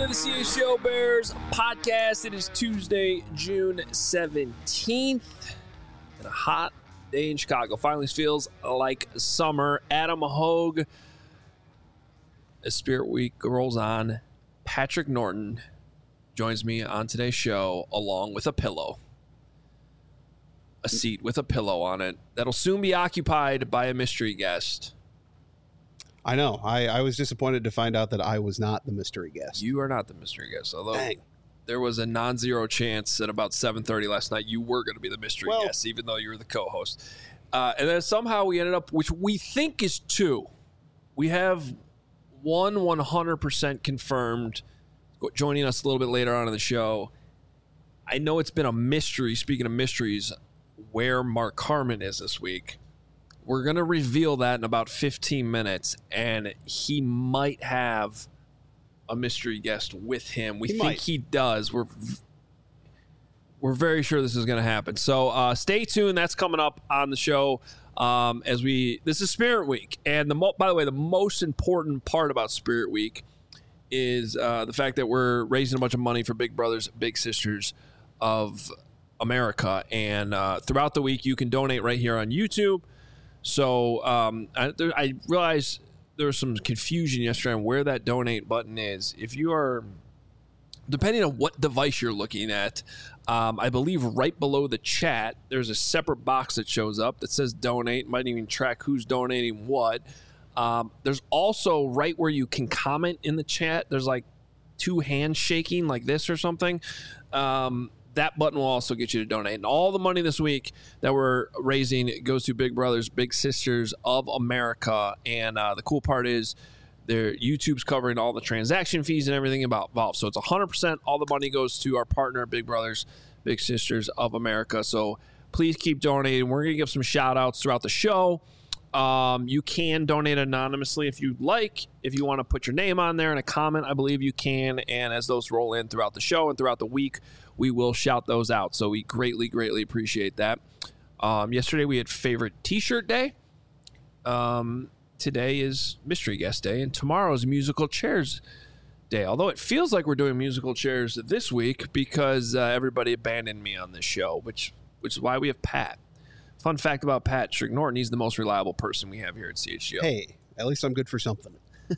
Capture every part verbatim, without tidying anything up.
the C H G O Bears podcast. It is Tuesday, June seventeenth. And a hot day in Chicago. Finally feels like summer. Adam Hogue. As Spirit Week rolls on, Patrick Norton joins me on today's show along with a pillow. A seat with a pillow on it that'll soon be occupied by a mystery guest. I know. I, I was disappointed to find out that I was not the mystery guest. You are not the mystery guest, although Dang. there was a non-zero chance at about seven thirty last night you were going to be the mystery well, guest, even though you were the co-host. Uh, and then somehow we ended up, which we think is two. We have one one hundred percent confirmed joining us a little bit later on in the show. I know it's been a mystery, speaking of mysteries, where Mark Carman is this week. We're going to reveal that in about fifteen minutes, and he might have a mystery guest with him. We he think might. he does. We're we're very sure this is going to happen. So uh, stay tuned. That's coming up on the show um, as we. This is Spirit Week, and the mo- by the way, the most important part about Spirit Week is uh, the fact that we're raising a bunch of money for Big Brothers Big Sisters of America, and uh, throughout the week you can donate right here on YouTube. So um, I, there, I realized there was some confusion yesterday on where that donate button is. If you are, depending on what device you're looking at, um, I believe right below the chat, there's a separate box that shows up that says donate. Might even track who's donating what. Um, there's also right where you can comment in the chat, there's like two hands shaking like this or something. Um, That button will also get you to donate. And all the money this week that we're raising goes to Big Brothers Big Sisters of America. And uh, the cool part is their YouTube's covering all the transaction fees and everything about involved. So it's one hundred percent. All the money goes to our partner, Big Brothers Big Sisters of America. So please keep donating. We're going to give some shout outs throughout the show. Um, you can donate anonymously if you'd like. If you want to put your name on there in a comment, I believe you can. And as those roll in throughout the show and throughout the week, we will shout those out. So we greatly, greatly appreciate that. Um, yesterday we had favorite t-shirt day. Um, today is mystery guest day, and tomorrow is musical chairs day. Although it feels like we're doing musical chairs this week because uh, everybody abandoned me on this show, which which is why we have Pat. Fun fact about Patrick Norton, he's the most reliable person we have here at C H G O. Hey, at least I'm good for something.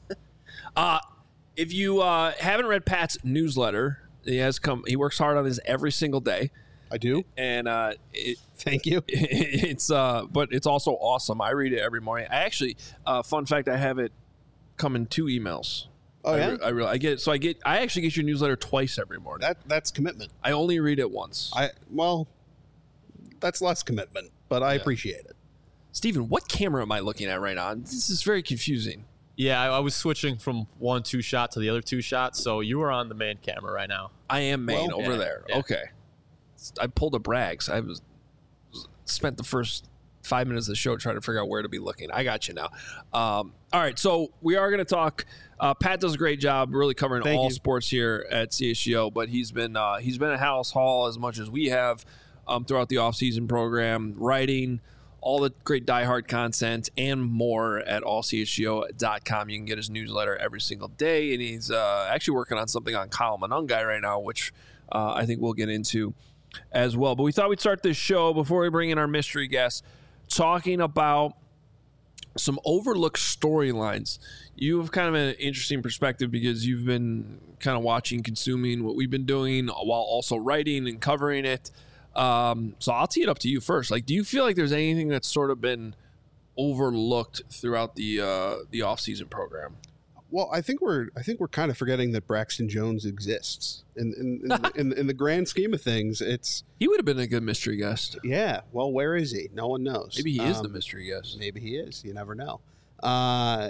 uh, if you uh, haven't read Pat's newsletter, he has come. He works hard on this every single day. I do, and uh, it, thank you. It, it's uh, but it's also awesome. I read it every morning. I actually, uh, fun fact, I have it come in two emails. Oh I yeah, re- I really I get it. So I get I actually get your newsletter twice every morning. That that's commitment. I only read it once. I well, that's less commitment, but I Yeah. appreciate it. Steven, what camera am I looking at right now? This is very confusing. Yeah, I, I was switching from one two shot to the other two shot, so you are on the main camera right now. I am main Well, over yeah, there. yeah. Okay. I pulled a Braggs. I was spent the first five minutes of the show trying to figure out where to be looking. I got you now. Um, all right, so we are going to talk. Uh, Pat does a great job really covering Thank all you. sports here at C H G O, but he's been uh, he's been at House Hall as much as we have um, throughout the offseason program, writing all the great diehard content and more at all c h g o dot com. You can get his newsletter every single day, and he's uh, actually working on something on Kyle Monangai right now, which uh, I think we'll get into as well. But we thought we'd start this show before we bring in our mystery guest, talking about some overlooked storylines. You have kind of an interesting perspective because you've been kind of watching, consuming what we've been doing while also writing and covering it. Um, so I'll tee it up to you first. Like, do you feel like there's anything that's sort of been overlooked throughout the uh, the offseason program? Well, I think we're I think we're kind of forgetting that Braxton Jones exists in in in, the, in, in the grand scheme of things. It's He would have been a good mystery guest. yeah. Well, where is he? No one knows. Maybe he is Um, the mystery guest. Maybe he is. You never know. Uh,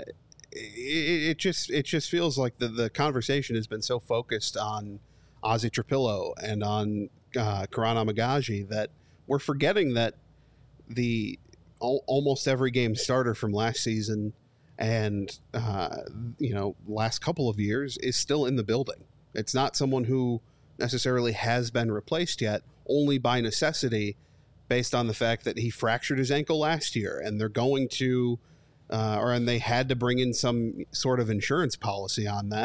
it, it just it just feels like the, the conversation has been so focused on Ozzy Trapillo and on uh, Karan Amagaji that we're forgetting that the al- almost every game starter from last season and uh, you know last couple of years is still in the building. It's not someone who necessarily has been replaced yet, only by necessity, based on the fact that he fractured his ankle last year, and they're going to, uh, or and they had to bring in some sort of insurance policy on that,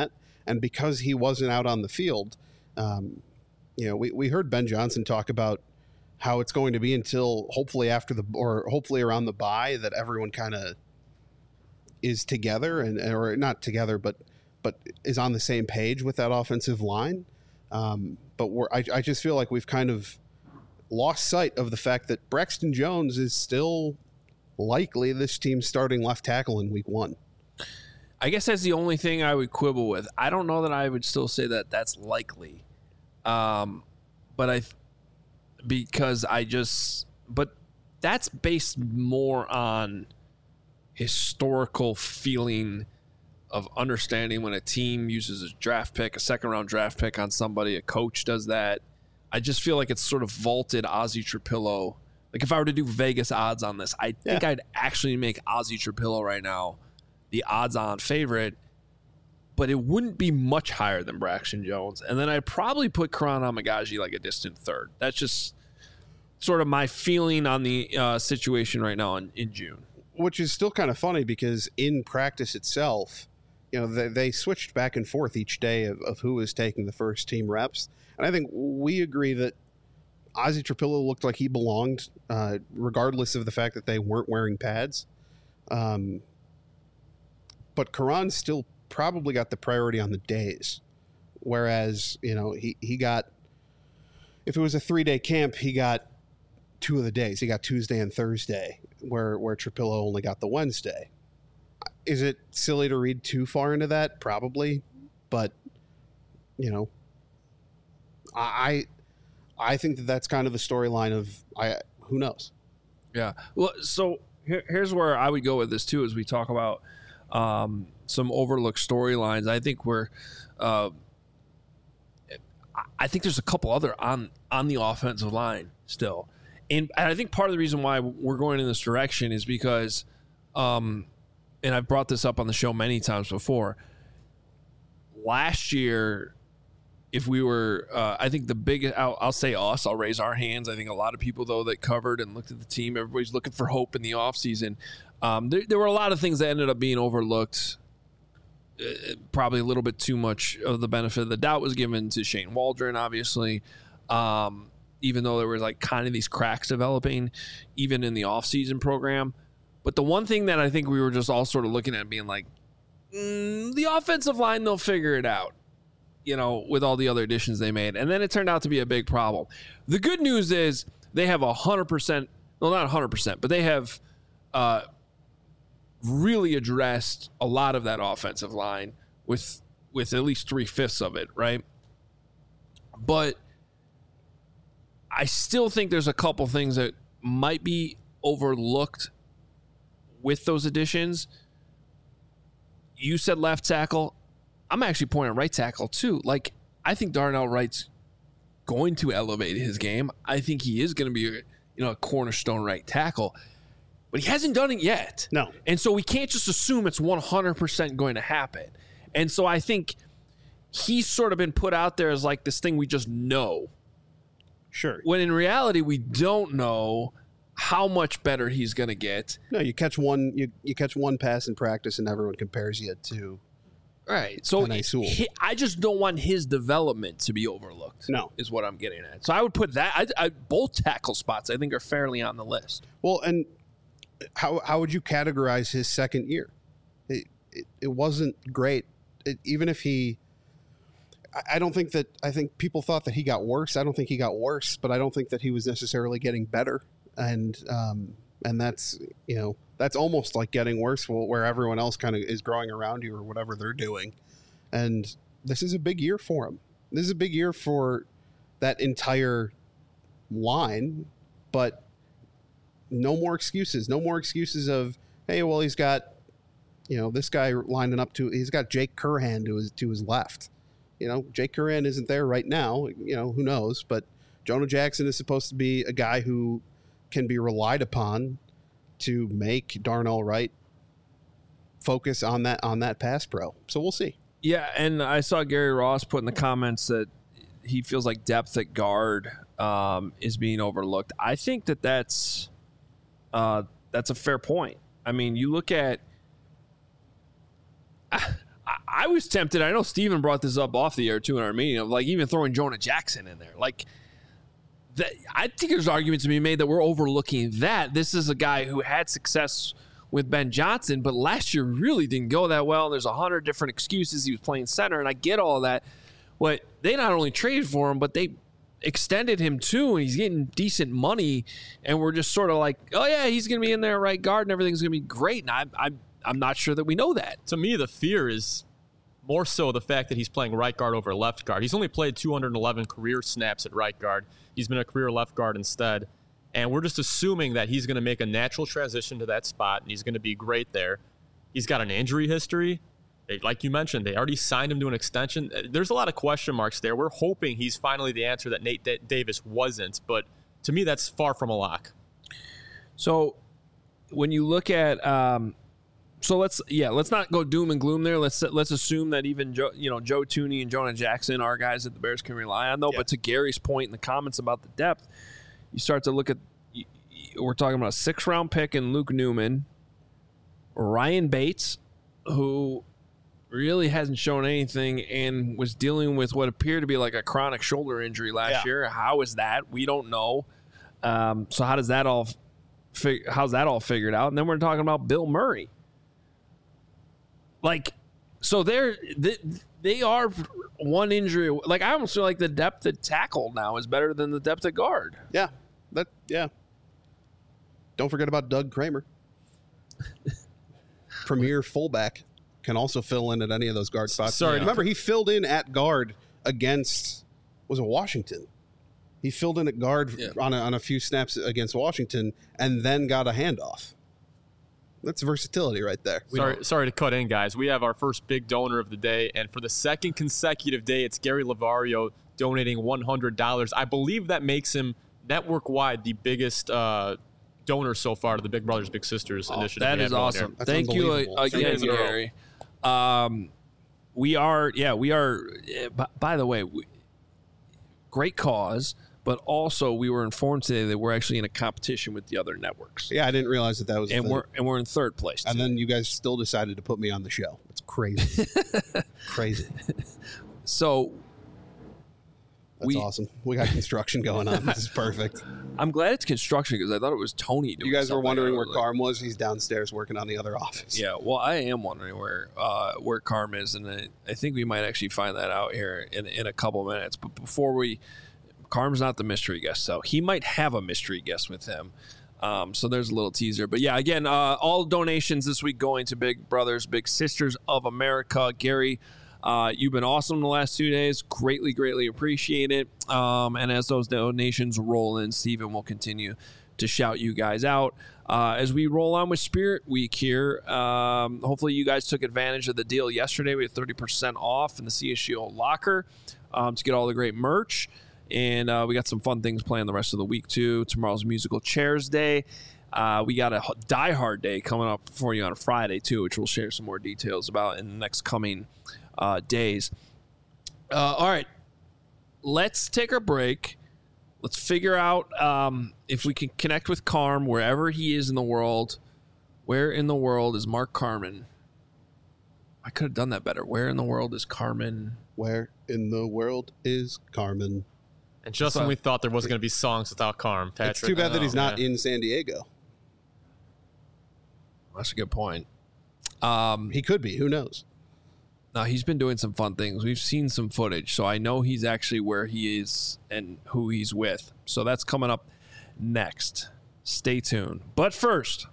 And because he wasn't out on the field, um, you know, we, we heard Ben Johnson talk about how it's going to be until hopefully after the, or hopefully around the bye, that everyone kind of is together and, or not together, but, but is on the same page with that offensive line. Um, but we're, I, I just feel like we've kind of lost sight of the fact that Braxton Jones is still likely this team's starting left tackle in week one. I guess that's the only thing I would quibble with. I don't know that I would still say that that's likely. Um, but I, because I just, but that's based more on historical feeling of understanding when a team uses a draft pick, a second round draft pick on somebody, a coach does that. I just feel like it's sort of vaulted Ozzie Trapillo. Like if I were to do Vegas odds on this, I think yeah. I'd actually make Ozzie Trapillo right now the odds-on favorite, but it wouldn't be much higher than Braxton Jones. And then I'd probably put Karan Amagaji like a distant third. That's just sort of my feeling on the uh, situation right now in, in June. Which is still kind of funny because in practice itself, you know, they, they switched back and forth each day of, of who was taking the first team reps. And I think we agree that Ozzie Trapillo looked like he belonged, uh, regardless of the fact that they weren't wearing pads. Um, but Karan still probably got the priority on the days. Whereas, you know, he, he got, if it was a three-day camp, he got two of the days. He got Tuesday and Thursday, where, where Trapillo only got the Wednesday. Is it silly to read too far into that? Probably. But, you know, I I think that that's kind of the storyline of I who knows. Yeah. Well, so here, here's where I would go with this too, as we talk about um, some overlooked storylines. I think we're, uh, I think there's a couple other on on the offensive line still, and, and I think part of the reason why we're going in this direction is because, um, and I've brought this up on the show many times before. Last year, if we were, uh, I think the biggest, I'll, I'll say us, I'll raise our hands. I think a lot of people, though, that covered and looked at the team, everybody's looking for hope in the offseason. Um, there, there were a lot of things that ended up being overlooked. Uh, probably a little bit too much of the benefit of the doubt was given to Shane Waldron, obviously, um, even though there was like kind of these cracks developing, even in the offseason program. But the one thing that I think we were just all sort of looking at being like, mm, the offensive line, they'll figure it out, you know, with all the other additions they made. And then it turned out to be a big problem. The good news is they have one hundred percent, well, not one hundred percent, but they have uh, really addressed a lot of that offensive line with with at least three-fifths of it, right? But I still think there's a couple things that might be overlooked with those additions. You said left tackle. I'm actually pointing right tackle too. Like, I think Darnell Wright's going to elevate his game. I think he is going to be, you know, a cornerstone right tackle, but he hasn't done it yet. No. And so we can't just assume it's one hundred percent going to happen. And so I think he's sort of been put out there as like this thing we just know. Sure. When in reality, we don't know how much better he's going to get. No, you catch one, you, you catch one pass in practice and everyone compares you to. Right. So he, I just don't want his development to be overlooked. No. Is what I'm getting at. So I would put that, I, I, both tackle spots I think are fairly on the list. Well, and how how would you categorize his second year? It, it, it wasn't great. It, even if he, I, I don't think that, I think people thought that he got worse. I don't think he got worse, but I don't think that he was necessarily getting better. And, um, and that's, you know, that's almost like getting worse where everyone else kind of is growing around you or whatever they're doing. And this is a big year for him. This is a big year for that entire line, but no more excuses. No more excuses of, hey, well, he's got, you know, this guy lining up to, he's got Jake Curhan to his, to his left. You know, Jake Curhan isn't there right now. You know, who knows? But Jonah Jackson is supposed to be a guy who can be relied upon to make Darnell Wright focus on that on that pass pro. So we'll see. Yeah, and I saw Gary Ross put in the comments that he feels like depth at guard um, is being overlooked. I think that that's uh, that's a fair point. I mean, you look at I, I was tempted. I know Steven brought this up off the air too in our meeting of like even throwing Jonah Jackson in there. Like that, I think there's arguments to be made that we're overlooking that. This is a guy who had success with Ben Johnson, but last year really didn't go that well. There's a hundred different excuses. He was playing center, and I get all that. But they not only traded for him, but they extended him too, and he's getting decent money. And we're just sort of like, oh yeah, he's going to be in there at right guard, and everything's going to be great. And I'm, I'm, I'm not sure that we know that. To me, the fear is more so the fact that he's playing right guard over left guard. He's only played two hundred eleven career snaps at right guard. He's been a career left guard instead. And we're just assuming that he's going to make a natural transition to that spot, and he's going to be great there. He's got an injury history. They, like you mentioned, they already signed him to an extension. There's a lot of question marks there. We're hoping he's finally the answer that Nate D- Davis wasn't. But to me, that's far from a lock. So when you look at um, – so let's yeah, let's not go doom and gloom there. Let's let's assume that even Joe, you know, Joe Thuney and Jonah Jackson are guys that the Bears can rely on, though. Yeah. But to Gary's point in the comments about the depth, you start to look at – we're talking about a six-round pick in Luke Newman, Ryan Bates, who – really hasn't shown anything and was dealing with what appeared to be like a chronic shoulder injury last yeah. year. How is that? We don't know. Um, so how does that all fig- how's that all figured out? And then we're talking about Bill Murray. Like, so they're they, they are one injury. Like, I almost feel like the depth at tackle now is better than the depth at guard. Yeah, that yeah. Don't forget about Doug Kramer, premier fullback. Can also fill in at any of those guard spots. Sorry, remember he filled in at guard against was it Washington? He filled in at guard yeah. on a, on a few snaps against Washington, and then got a handoff. That's versatility right there. Sorry, sorry to cut in, guys. We have our first big donor of the day, and for the second consecutive day, it's Gary Lavario donating one hundred dollars. I believe that makes him network-wide the biggest uh, donor so far to the Big Brothers Big Sisters oh, initiative. That is awesome. Thank you again, Gary. Um, we are, yeah, we are, by, by the way, we, great cause, but also we were informed today that we're actually in a competition with the other networks. Yeah, I didn't realize that that was and a thing. we're and we're in third place today. And then you guys still decided to put me on the show. It's crazy. Crazy. So That's we, awesome. We got construction going on. This is perfect. I'm glad it's construction because I thought it was Tony doing You guys were wondering like where Carm was. He's downstairs working on the other office. Yeah, well, I am wondering where uh, where Carm is, and I, I think we might actually find that out here in, in a couple minutes. But before we, Carm's not the mystery guest, so he might have a mystery guest with him. Um, so there's a little teaser. But yeah, again, uh, all donations this week going to Big Brothers, Big Sisters of America. Gary, Uh, you've been awesome the last two days. Greatly, greatly appreciate it. Um, and as those donations roll in, Steven will continue to shout you guys out. Uh, as we roll on with Spirit Week here, um, hopefully you guys took advantage of the deal yesterday. We had thirty percent off in the C S G O locker um, to get all the great merch. And uh, we got some fun things planned the rest of the week, too. Tomorrow's Musical Chairs Day. Uh, we got a Die Hard Day coming up for you on a Friday, too, which we'll share some more details about in the next coming Uh, days. Uh, all right, let's take our break. Let's figure out um, if we can connect with Carm wherever he is in the world. Where in the world is Mark Carman? I could have done that better. Where in the world is Carman? Where in the world is Carman? And just so, when we thought there wasn't going to be songs without Carm, Patrick. It's too bad that he's not yeah. in San Diego. That's a good point. Um, he could be. Who knows? No, he's been doing some fun things. We've seen some footage, so I know he's actually where he is and who he's with. So that's coming up next. Stay tuned. But first,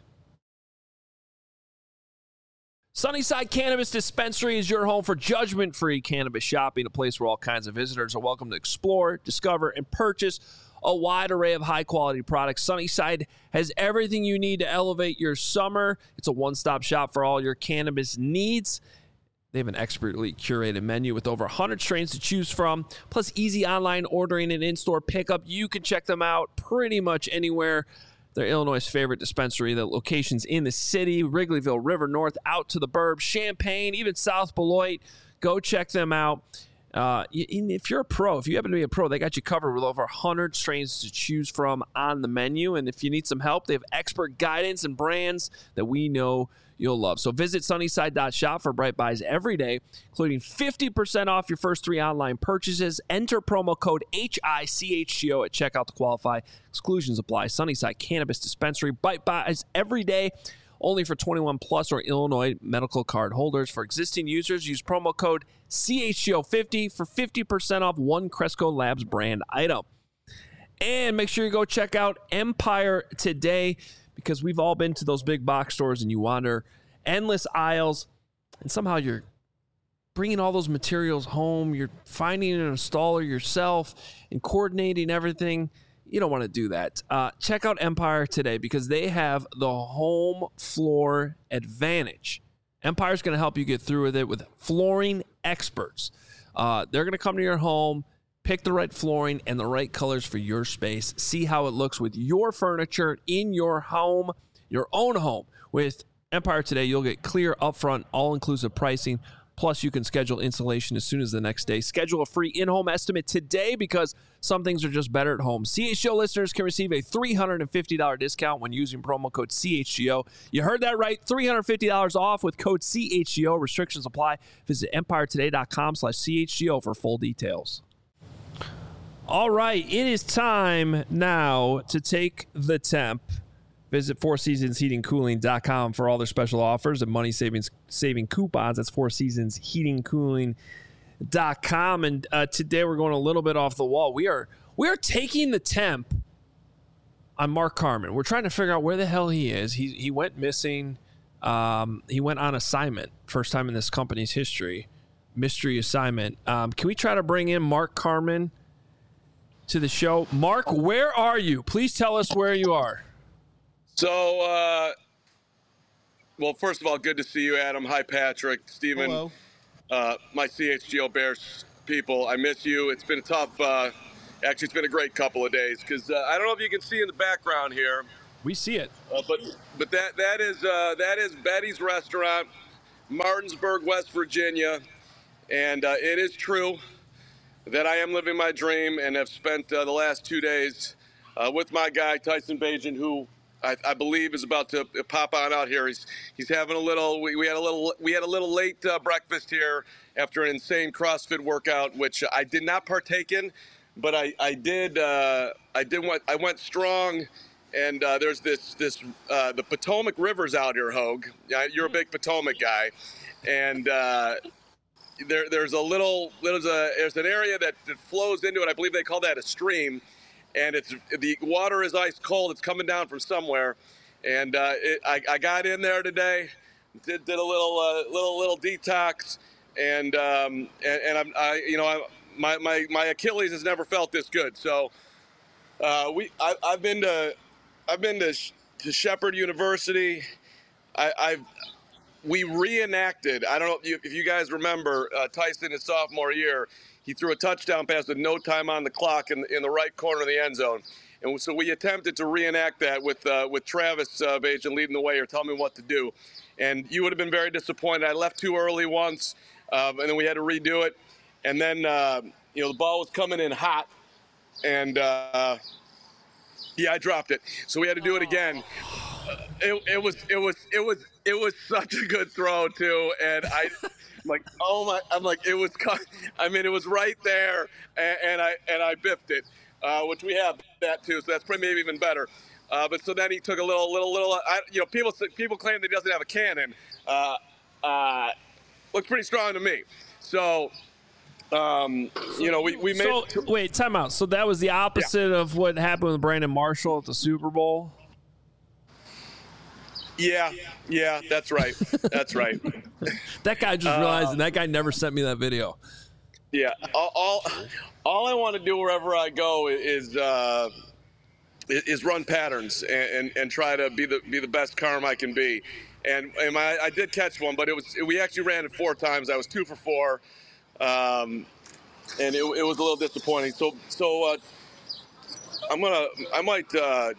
Sunnyside Cannabis Dispensary is your home for judgment-free cannabis shopping, a place where all kinds of visitors are welcome to explore, discover, and purchase a wide array of high-quality products. Sunnyside has everything you need to elevate your summer. It's a one-stop shop for all your cannabis needs. They have an expertly curated menu with over one hundred strains to choose from, plus easy online ordering and in-store pickup. You can check them out pretty much anywhere. They're Illinois' favorite dispensary. The locations in the city, Wrigleyville, River North, out to the burbs, Champaign, even South Beloit. Go check them out. Uh, if you're a pro, if you happen to be a pro, they got you covered with over one hundred strains to choose from on the menu. And if you need some help, they have expert guidance and brands that we know you'll love. So visit Sunnyside dot shop for Bright Buys every day, including fifty percent off your first three online purchases. Enter promo code H I C H G O at checkout to qualify. Exclusions apply. Sunnyside Cannabis Dispensary. Bright Buys every day. Only for twenty-one plus or Illinois medical card holders. For existing users, use promo code C H G O fifty for fifty percent off one Cresco Labs brand item. And make sure you go check out Empire today, because we've all been to those big box stores and you wander endless aisles and somehow you're bringing all those materials home. You're finding an installer yourself and coordinating everything. You don't want to do that. Uh, check out Empire today, because they have the home floor advantage. Empire's going to help you get through with it with flooring experts. Uh, they're going to come to your home, pick the right flooring and the right colors for your space. See how it looks with your furniture in your home, your own home. With Empire today, you'll get clear, upfront, all-inclusive pricing. Plus, you can schedule installation as soon as the next day. Schedule a free in-home estimate today, because some things are just better at home. C H G O listeners can receive a three hundred fifty dollars discount when using promo code C H G O. You heard that right, three hundred fifty dollars off with code C H G O. Restrictions apply. Visit empire today dot com slash C H G O for full details. All right, it is time now to take the temp. Visit four seasons heating cooling dot com for all their special offers and money savings saving coupons. That's four seasons heating cooling dot com. And uh, today we're going a little bit off the wall. We are we are taking the temp on Mark Carman. We're trying to figure out where the hell he is. He he went missing. Um, he went on assignment. First time in this company's history. Mystery assignment. Um, can we try to bring in Mark Carman to the show? Mark, where are you? Please tell us where you are. So, uh, well, first of all, good to see you, Adam. Hi, Patrick, Steven, Hello. Uh, my C H G O Bears people. I miss you. It's been a tough, uh, actually, it's been a great couple of days, because uh, I don't know if you can see in the background here. We see it. Uh, but but that that is uh, that is Betty's Restaurant, Martinsburg, West Virginia. And uh, it is true that I am living my dream and have spent uh, the last two days uh, with my guy, Tyson Bagent, who I, I believe is about to pop on out here. He's he's having a little. We, we had a little. We had a little late uh, breakfast here after an insane CrossFit workout, which I did not partake in, but I I did. Uh, I did. Went, I went strong, and uh, there's this this uh, the Potomac River's out here, Hogue. You're a big Potomac guy, and uh, there there's a little there's a there's an area that, that flows into it. I believe they call that a stream. And it's the water is ice cold. It's coming down from somewhere, and uh, it, I, I got in there today, did did a little uh, little little detox, and um, and, and I'm I you know I, my my my Achilles has never felt this good. So uh, we I, I've been to I've been to to Shepherd University. I, I've we reenacted. I don't know if you, if you guys remember uh, Tyson his sophomore year. He threw a touchdown pass with no time on the clock in, in the right corner of the end zone. And so we attempted to reenact that with uh, with Travis uh, Bagent leading the way or telling me what to do. And you would have been very disappointed. I left too early once, um, and then we had to redo it. And then, uh, you know, the ball was coming in hot. And, uh, yeah, I dropped it. So we had to do it again. Uh, it, it was it was it was it was such a good throw too, and I. I'm like, oh my! I'm like, it was. I mean, it was right there, and, and I and I biffed it, uh, which we have that too. So that's probably maybe even better. Uh, but so then he took a little, little, little. I, you know, people people claim that he doesn't have a cannon. Uh, uh, looks pretty strong to me. So, um, you know, we we made. So two- wait, time out. So that was the opposite yeah. of what happened with Brandon Marshall at the Super Bowl. Yeah, yeah, that's right. That's right. That guy just realized, uh, and that guy never sent me that video. Yeah, all all, all I want to do wherever I go is uh, is run patterns and, and, and try to be the be the best Carm I can be. And and my, I did catch one, but it was we actually ran it four times. I was two for four, um, and it, it was a little disappointing. So so uh, I'm gonna I might uh, just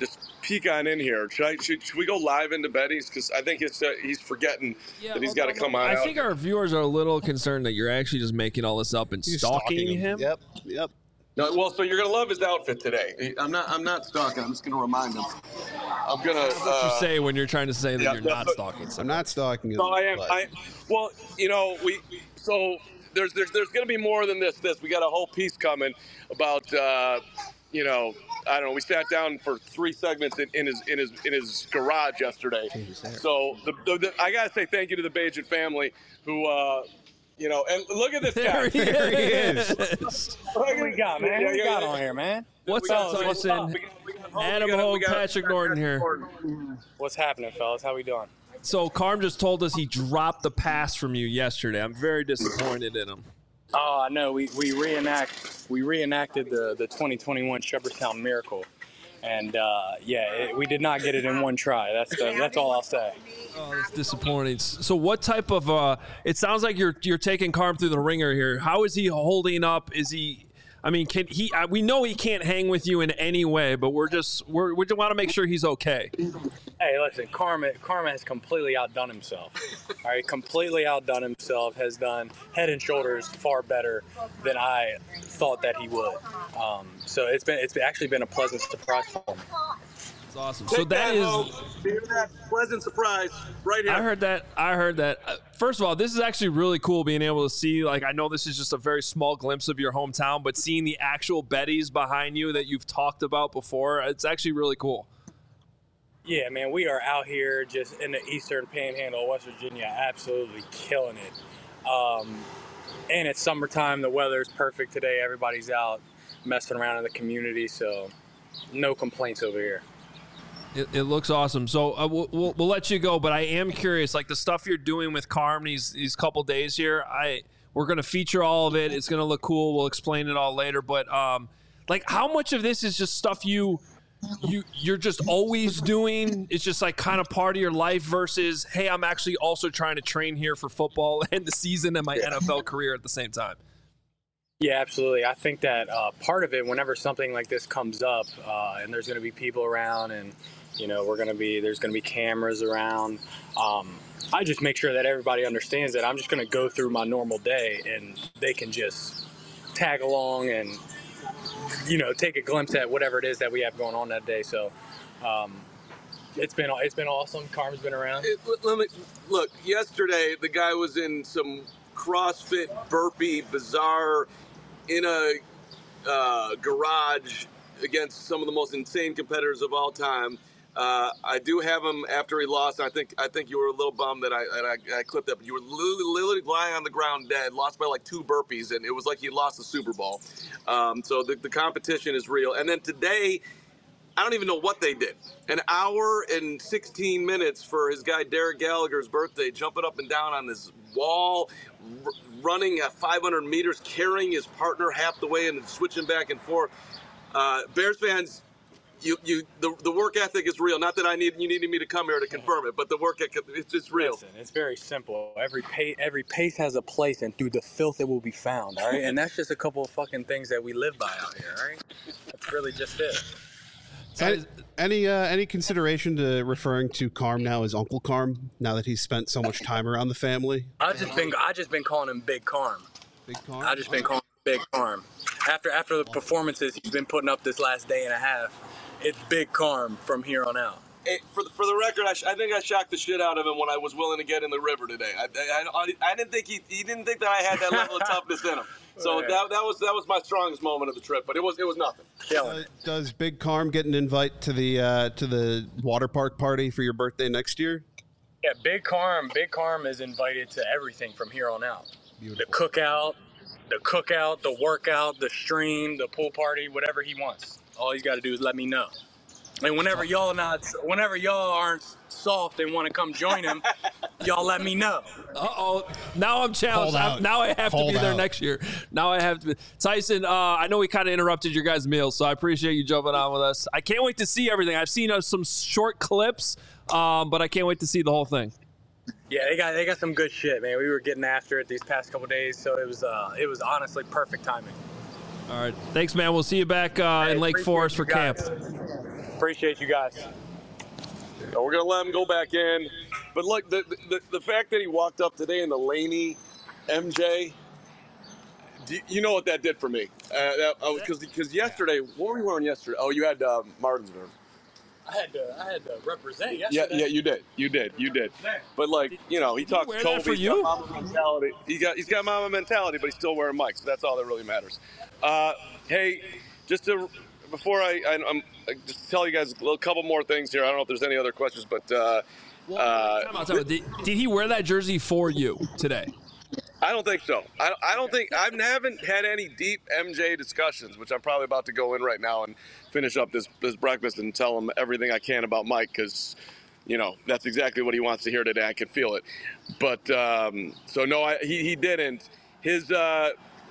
peek on in here. Should I? Should, should we go live into Betty's? Because I think it's uh, he's forgetting Yeah, that he's well, got to no, come no, on I out. think our viewers are a little concerned that you're actually just making all this up and You're stalking, him. Yep, yep. No, well, so you're gonna love his outfit today. I'm not. I'm not stalking. I'm just gonna remind him. I'm gonna. What uh, you say when you're trying to say that yeah, you're yeah, not but- stalking? I'm not stalking him. No, I am. but- I well, you know, we so there's there's there's going to be more than this. This we got a whole piece coming about. Uh, you know, I don't know. We sat down for three segments in, in his in his in his garage yesterday. So the, the, the, I gotta say thank you to the Bajan family who. Uh, You know, and look at this guy. There he There he is. What we got, man? What we Yeah, got yeah, on here, man? What's We up, got- what's up? Tyson? We got- we got Hope, Adam we got- Hogue, we got- Patrick Norton here. What's happening, fellas? How we doing? So Carm just told us he dropped the pass from you yesterday. I'm very disappointed in him. Oh, I know. We we reenact we reenacted the the twenty twenty-one Shepherdstown Miracle, and uh, yeah, it, we did not get it in one try. That's the, that's all I'll say. Oh, that's disappointing. So what type of uh it sounds like you're you're taking Carm through the ringer here. How is he holding up? Is he I mean, can he uh, we know he can't hang with you in any way, but we're just we're we just want to make sure he's okay. Hey, listen, Karma Karma has completely outdone himself. All right, completely outdone himself. Has done head and shoulders far better than I thought that he would. Um, so it's been it's actually been a pleasant surprise for me. It's awesome. So Take that is Hope. Hear that pleasant surprise right here. I heard that. I heard that. Uh, First of all, this is actually really cool being able to see. Like, I know this is just a very small glimpse of your hometown, but seeing the actual Betty's behind you that you've talked about before, it's actually really cool. Yeah, man, we are out here just in the eastern panhandle of West Virginia, absolutely killing it. Um, and it's summertime. The weather is perfect today. Everybody's out messing around in the community, so no complaints over here. It, it looks awesome. So uh, we'll, we'll, we'll let you go, but I am curious, like the stuff you're doing with Carm these these couple days here. I we're gonna feature all of it. It's gonna look cool. We'll explain it all later. But um, like, how much of this is just stuff you you you're just always doing? It's just like kind of part of your life versus, hey, I'm actually also trying to train here for football and the season and my N F L career at the same time. Yeah, absolutely. I think that uh, part of it, whenever something like this comes up, uh, and there's going to be people around, and you know, we're going to be there's going to be cameras around. Um, I just make sure that everybody understands that I'm just going to go through my normal day, and they can just tag along and you know take a glimpse at whatever it is that we have going on that day. So um, it's been it's been awesome. Carm's been around. It, let me look. Yesterday, the guy was in some CrossFit burpee, bizarre, in a uh, garage against some of the most insane competitors of all time. Uh, I do have him after he lost. I think I think you were a little bummed that I that I, I clipped that. But you were literally, literally lying on the ground dead, lost by like two burpees, and it was like he lost the Super Bowl. Um, so the, the competition is real. And then today, I don't even know what they did. An hour and sixteen minutes for his guy Derek Gallagher's birthday, jumping up and down on this wall, r- running at five hundred meters, carrying his partner half the way and then switching back and forth. Uh, Bears fans, you you the, the work ethic is real. Not that I need you needed me to come here to confirm it, but the work ethic it's just real. Listen, it's very simple. Every pace, every pace has a place, and through the filth it will be found. All right, and that's just a couple of fucking things that we live by out here. All right, that's really just it. Any any, uh, any consideration to referring to Carm now as Uncle Carm now that he's spent so much time around the family? I just been I just been calling him Big Carm. Big Carm. I just been calling him Big Carm. After after the performances he's been putting up this last day and a half, it's Big Carm from here on out. Hey, for the, for the record, I, sh- I think I shocked the shit out of him when I was willing to get in the river today. I, I, I, I didn't think he he didn't think that I had that level of toughness in him. So Right. that that was that was my strongest moment of the trip. But it was it was nothing. Killing Uh, it. does Big Carm get an invite to the uh, to the water park party for your birthday next year? Yeah, Big Carm. Big Carm is invited to everything from here on out. Beautiful. The cookout, the cookout, the workout, the stream, the pool party, whatever he wants. All he's got to do is let me know. And whenever y'all not, whenever y'all aren't soft and want to come join him, y'all let me know. Uh oh! Now I'm challenged. Hold out. I'm, now I have Hold to be there out. next year. Now I have to. Be. Tyson, uh, I know we kind of interrupted your guys' meal, so I appreciate you jumping on with us. I can't wait to see everything. I've seen uh, some short clips, um, but I can't wait to see the whole thing. Yeah, they got they got some good shit, man. We were getting after it these past couple days, so it was uh, it was honestly perfect timing. All right, thanks, man. We'll see you back uh, in Hey, Lake appreciate Forest you for camp. guys. Appreciate you guys. So we're gonna let him go back in, but look, the the, the fact that he walked up today in the Laney M J, do you, you know what that did for me? Because uh, because yesterday, what were you wearing yesterday? Oh, you had uh, Martinsburg. I had to, I had to represent Yeah, yesterday. yeah, you did, you did, you did. But like, you know, he talks wear Kobe. that for He's you? got mama mentality. He got he's got mama mentality, but he's still wearing mics. So that's all that really matters. Uh, hey, just to before I, I I'm I just tell you guys a little, couple more things here. I don't know if there's any other questions, but uh, Well, uh, time out, time out. Did, did he wear that jersey for you today? I don't think so. I, I don't think I haven't had any deep M J discussions, which I'm probably about to go in right now and finish up this this breakfast and tell him everything I can about Mike, because you know that's exactly what he wants to hear today. I can feel it. But um, so no, I, he he didn't. His uh,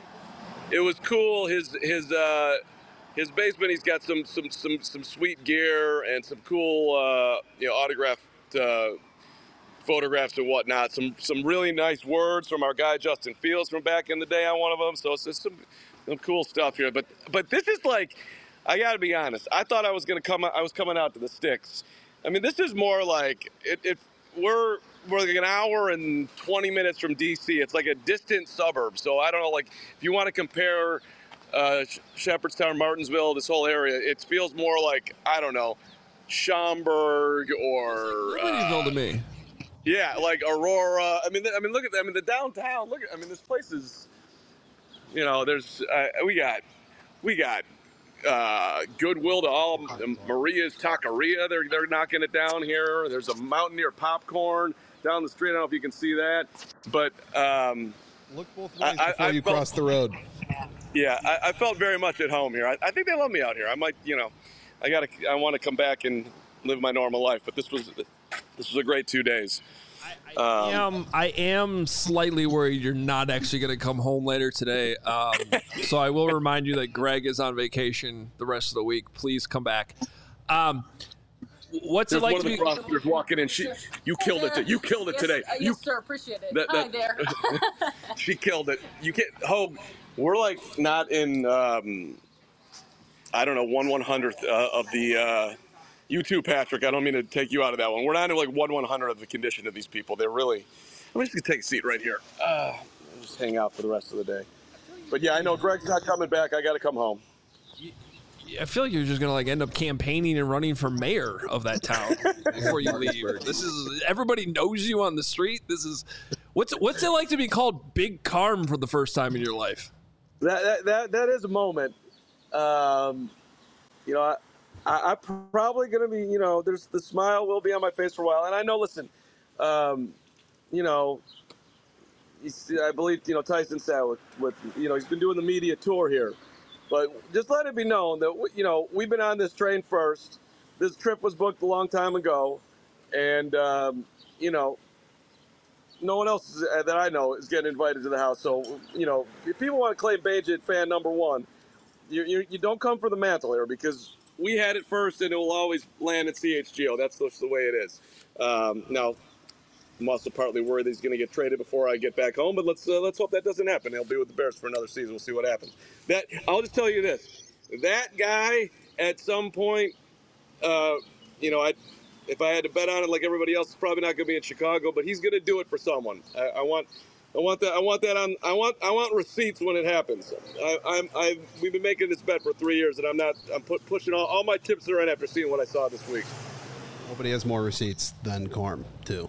it was cool. His his uh, his basement. He's got some some some some sweet gear and some cool uh, you know autographed. Uh, photographs and whatnot, some some really nice words from our guy Justin Fields from back in the day on one of them. So it's just some some cool stuff here. But but this is like, I got to be honest. I thought I was gonna come. I was coming out to the sticks. I mean, this is more like it. it we're we're like an hour and twenty minutes from D C. It's like a distant suburb. So I don't know. Like if you want to compare uh, Shepherdstown, Martinsville, this whole area, it feels more like I don't know, Schaumburg or Libertyville uh, to me. Yeah, like Aurora. I mean, I mean, look at. I mean, the downtown. Look at. I mean, this place is. You know, there's. Uh, we got. We got. Uh, Goodwill to all. Maria's Taqueria. They're they're knocking it down here. There's a Mountaineer Popcorn down the street. I don't know if you can see that, but um, Look both ways I- before I you felt- cross the road. yeah, I, I felt very much at home here. I, I think they love me out here. I might, you know, I gotta. I want to come back and live my normal life, but this was. This was a great two days. I, I am I am slightly worried you're not actually going to come home later today. Um, so I will remind you that Greg is on vacation the rest of the week. Please come back. Um, what's There's it like one to of the be? prosecutors walking in. She, you killed it. t- You killed it yes, today. Uh, You, yes, sir. Appreciate it. that- Hi that- there. she killed it. You can't. Oh, we're like not in. Um, I don't know, one one hundredth uh, of the. Uh, you too, Patrick. I don't mean to take you out of that one. We're not in like one one hundred of the condition of these people. They're really. I'm just gonna take a seat right here. Uh, just hang out for the rest of the day. But yeah, I know Greg's not coming back. I got to come home. I feel like you're just going to like end up campaigning and running for mayor of that town before you leave. This is everybody knows you on the street. This is what's what's it like to be called Big Carm for the first time in your life? That that that, that is a moment. Um, you know, I, I, I'm probably going to be. You know, there's the smile will be on my face for a while, and I know. Listen, um, you know, he's, I believe you know Tyson said with, with you know he's been doing the media tour here, but just let it be known that you know we've been on this train first. This trip was booked a long time ago, and um, you know. No one else is, uh, that I know is getting invited to the house. So, you know, if people want to claim Bajit fan number one, you, you, you don't come for the mantle here because we had it first and it will always land at C H G O. That's just the way it is. Um, now, I'm also partly worried that he's going to get traded before I get back home, but let's uh, let's hope that doesn't happen. He'll be with the Bears for another season. We'll see what happens. That I'll just tell you this. That guy at some point, uh, you know, I. If I had to bet on it, like everybody else, it's probably not going to be in Chicago, but he's going to do it for someone. I, I want, I want that. I want that on. I want. I want receipts when it happens. I, I'm. I. We've been making this bet for three years, and I'm not. I'm put, pushing all. All my chips are in after seeing what I saw this week. Nobody has more receipts than Corm, too.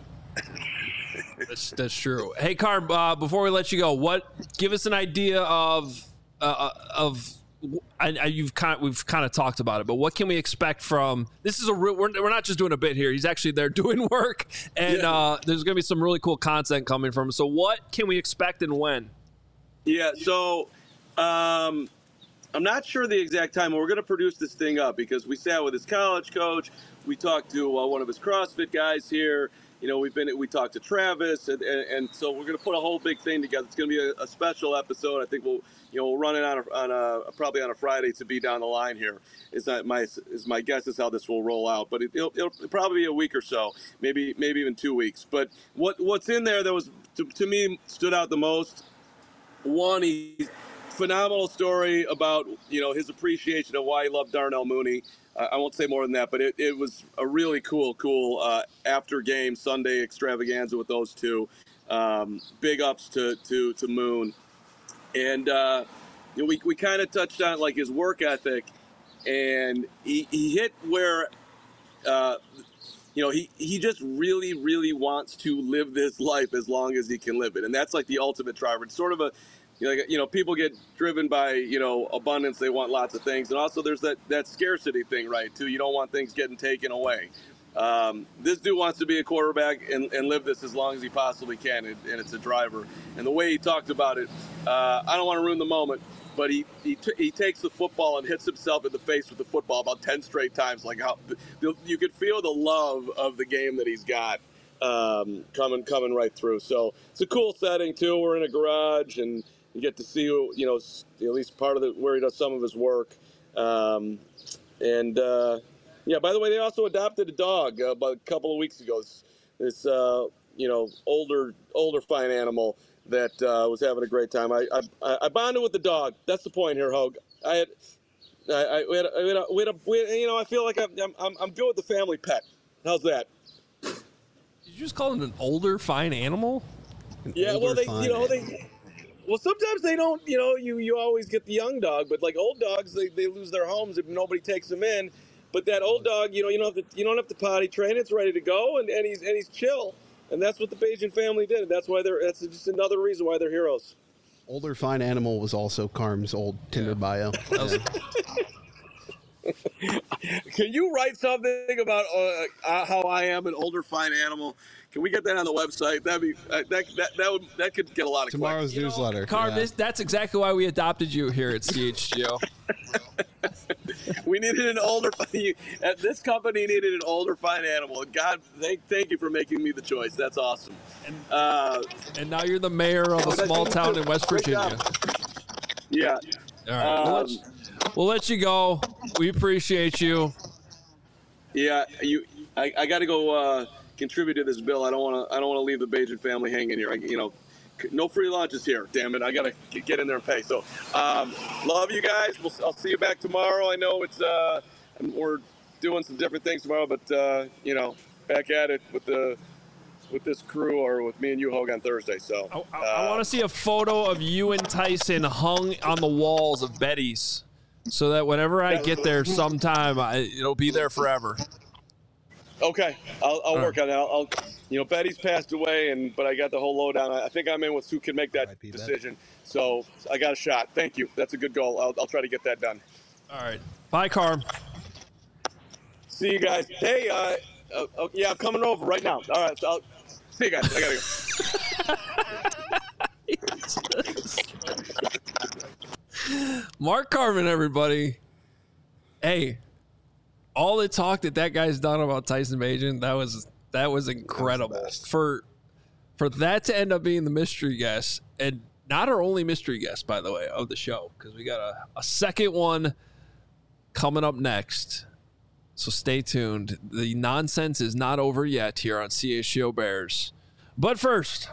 That's that's true. Hey, Carm, uh, before we let you go, what? Give us an idea of uh, of. I, I, you've kind of, we've kind of talked about it, but what can we expect from this? Is a real, we're, we're not just doing a bit here. He's actually there doing work, and Yeah. uh, there's going to be some really cool content coming from him. So, what can we expect and when? Yeah. So, um, I'm not sure the exact time. We're going to produce this thing up because we sat with his college coach. We talked to uh, one of his CrossFit guys here. You know, we've been we talked to Travis, and, and, and so we're going to put a whole big thing together. It's going to be a, a special episode. I think we'll, you know, we'll run it on a, on a probably on a Friday to be down the line here. Is that my is my guess is how this will roll out, but it, it'll, it'll probably be a week or so, maybe maybe even two weeks. But what what's in there that was to, to me stood out the most. One, he phenomenal story about you know his appreciation of why he loved Darnell Mooney. I, I won't say more than that, but it, it was a really cool, cool uh, after game Sunday extravaganza with those two. Um, big ups to to to Moon, and uh, you know, we we kind of touched on like his work ethic, and he he hit where. Uh, You know, he, he just really, really wants to live this life as long as he can live it. And that's like the ultimate driver. It's sort of a, you know, like, you know, people get driven by, you know, abundance. They want lots of things. And also there's that, that scarcity thing, right, too. You don't want things getting taken away. Um, this dude wants to be a quarterback and, and live this as long as he possibly can. And, and it's a driver. And the way he talked about it, uh, I don't want to ruin the moment. But he he, t- he takes the football and hits himself in the face with the football about ten straight times. Like how you could feel the love of the game that he's got um, coming coming right through. So it's a cool setting too. We're in a garage and you get to see you know at least part of the where he does some of his work. Um, and uh, yeah, by the way, they also adopted a dog uh, about a couple of weeks ago. This, this uh, you know older older fine animal. That uh, was having a great time. I, I I bonded with the dog. That's the point here, Hogue. I had, I, I we had, a, we had, a, we had, a, we had you know, I feel like I'm, I'm I'm good with the family pet. How's that? Did you just call it an older fine animal? An yeah, well, they you know animal. they. Well, sometimes they don't. You know, you you always get the young dog, but like old dogs, they, they lose their homes if nobody takes them in. But that old dog, you know, you don't have to you don't have to potty train. It's ready to go, and, and he's and he's chill. And that's what the Bajan family did. And that's why they're, that's just another reason why they're heroes. Older fine animal was also Carm's old Tinder yeah. bio. Yeah. Can you write something about uh, how I am an older fine animal? Can we get that on the website? That'd be uh, that that that would that could get a lot of tomorrow's clicks. newsletter. You know, Carm, yeah. this, that's exactly why we adopted you here at C H G O. We needed an older. At this company needed an older fine animal. God, thank thank you for making me the choice. That's awesome. And, uh, and now you're the mayor of a small town in West Virginia. Yeah. All right. Um, we'll, let, we'll let you go. We appreciate you. Yeah, you. I, I got to go uh, contribute to this bill. I don't want to. I don't want to leave the Bajan family hanging here. I, you know. No free lunches here, damn it. I got to get in there and pay. So, um, love you guys. We'll, I'll see you back tomorrow. I know it's uh, we're doing some different things tomorrow, but, uh, you know, back at it with the with this crew or with me and you, Hogue, on Thursday. So I, I, I want to see a photo of you and Tyson hung on the walls of Betty's so that whenever I get there sometime, I, it'll be there forever. Okay, I'll, I'll work right. on that. I'll, I'll, you know, Betty's passed away, and but I got the whole lowdown. I think I'm in with who can make that decision. So I got a shot. Thank you. That's a good goal. I'll, I'll try to get that done. All right. Bye, Carm. See you guys. Hey, uh, uh, uh, yeah, I'm coming over right now. All right, so I'll see you guys. I gotta go. Mark Carman, everybody. Hey. All the talk that that guy's done about Tyson Bagent, that was that was incredible. That was for for that to end up being the mystery guest, and not our only mystery guest, by the way, of the show, because we got a, a second one coming up next. So stay tuned. The nonsense is not over yet here on C H G O Bears. But first,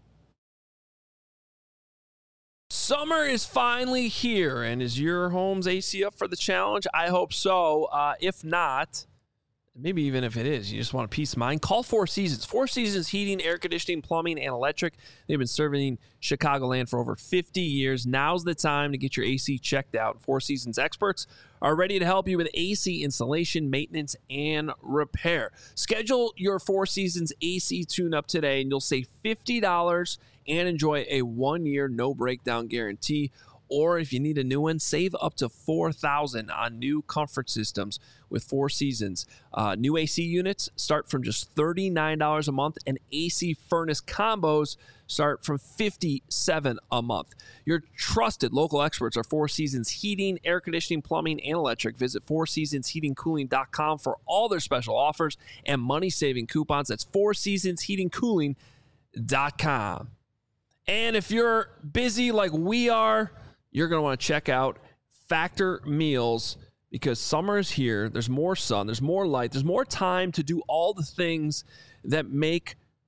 summer is finally here, and is your home's A C up for the challenge? I hope so. Uh, if not, maybe even if it is, you just want a peace of mind, call Four Seasons. Four Seasons Heating, Air Conditioning, Plumbing, and Electric. They've been serving Chicagoland for over fifty years. Now's the time to get your A C checked out. Four Seasons experts are ready to help you with A C installation, maintenance, and repair. Schedule your Four Seasons A C tune-up today, and you'll save fifty dollars and enjoy a one-year no-breakdown guarantee. Or if you need a new one, save up to four thousand dollars on new comfort systems with Four Seasons. Uh, new A C units start from just thirty-nine dollars a month, and A C furnace combos start from fifty-seven dollars a month. Your trusted local experts are Four Seasons Heating, Air Conditioning, Plumbing, and Electric. Visit four seasons heating cooling dot com for all their special offers and money-saving coupons. That's four seasons heating cooling dot com. And if you're busy like we are, you're going to want to check out Factor Meals, because summer is here. There's more sun. There's more light. There's more time to do all the things that make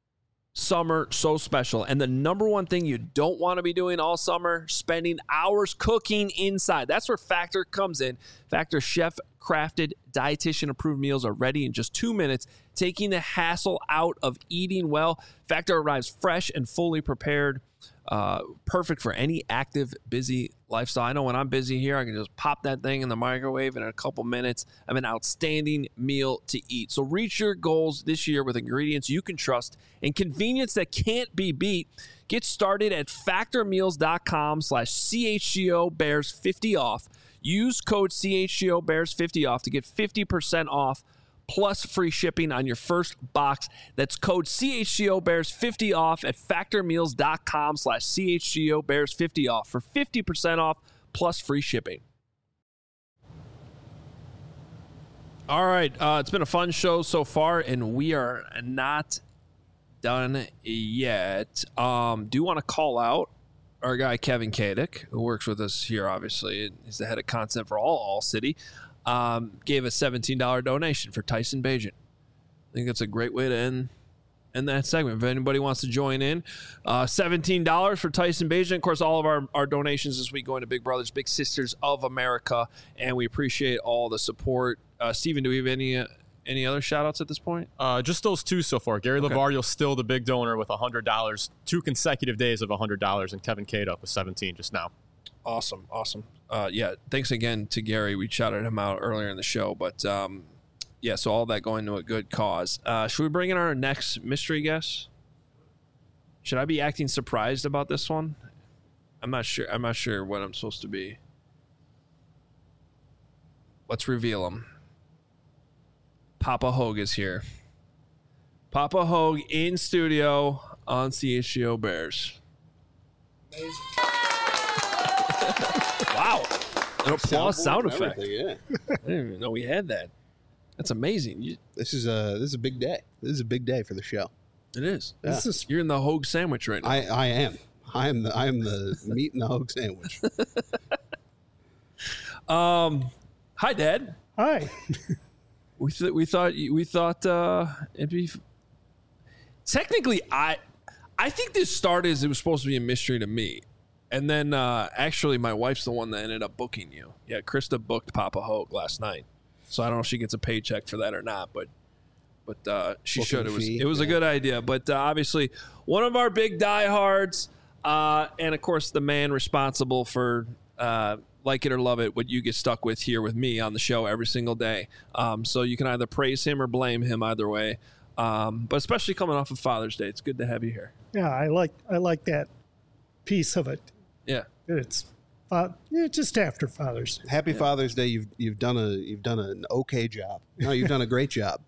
summer so special. And the number one thing you don't want to be doing all summer, spending hours cooking inside. That's where Factor comes in. Factor chef-crafted, dietitian-approved meals are ready in just two minutes, taking the hassle out of eating well. Factor arrives fresh and fully prepared. Uh, perfect for any active, busy lifestyle. I know when I'm busy here, I can just pop that thing in the microwave and in a couple minutes, I have an outstanding meal to eat. So reach your goals this year with ingredients you can trust and convenience that can't be beat. Get started at factormeals.com slash CHGO Bears 50 off. Use code C H G O Bears fifty off to get fifty percent off plus free shipping on your first box. That's code C H G O Bears fifty off at factormeals.com slash C H G O Bears 50 off for fifty percent off plus free shipping. All right. Uh, it's been a fun show so far, and we are not done yet. Um, do want to call out our guy, Kevin Kadick, who works with us here, obviously. He's the head of content for all All City. Um, gave a seventeen dollars donation for Tyson Bagent. I think that's a great way to end, end that segment. If anybody wants to join in, uh, seventeen dollars for Tyson Bagent. Of course, all of our, our donations this week going to Big Brothers, Big Sisters of America, and we appreciate all the support. Uh, Steven, do we have any uh, any other shout-outs at this point? Uh, just those two so far. Gary Okay. Lavario's still the big donor with one hundred dollars, two consecutive days of one hundred dollars, and Kevin Kadick with seventeen just now. Awesome, awesome. Uh, yeah, thanks again to Gary. We shouted him out earlier in the show, but um, yeah, so all that going to a good cause. Uh, should we bring in our next mystery guest? Should I be acting surprised about this one? I'm not sure. I'm not sure what I'm supposed to be. Let's reveal him. Papa Hogue is here. Papa Hogue in studio on C H G O Bears. Amazing. Wow. An applause sound and effect. everything, Yeah. I didn't even know we had that. That's amazing. You, This is a this is a big day. This is a big day for the show. it is. Yeah. This is You're in the Hogue sandwich right now. I, I am. I am the I am the meat and the Hogue sandwich. um, hi, Dad. hi. We th- we thought we thought uh, it'd be. Technically, I I think this started as it was supposed to be a mystery to me, and then uh, actually my wife's the one that ended up booking you. Yeah, Krista booked Papa Hogue last night, so I don't know if she gets a paycheck for that or not, but but uh, she Booking should. It was fee, it was a yeah. good idea, but uh, obviously one of our big diehards, uh, and of course the man responsible for. Uh, Like it or love it, what you get stuck with here with me on the show every single day. Um, so you can either praise him or blame him either way. Um, but especially coming off of Father's Day, it's good to have you here. Yeah, I like I like that piece of it. Yeah. It's uh, yeah, just after Father's Day. Happy Father's Day. You've you've done a you've done an okay job. No, you've done a great job.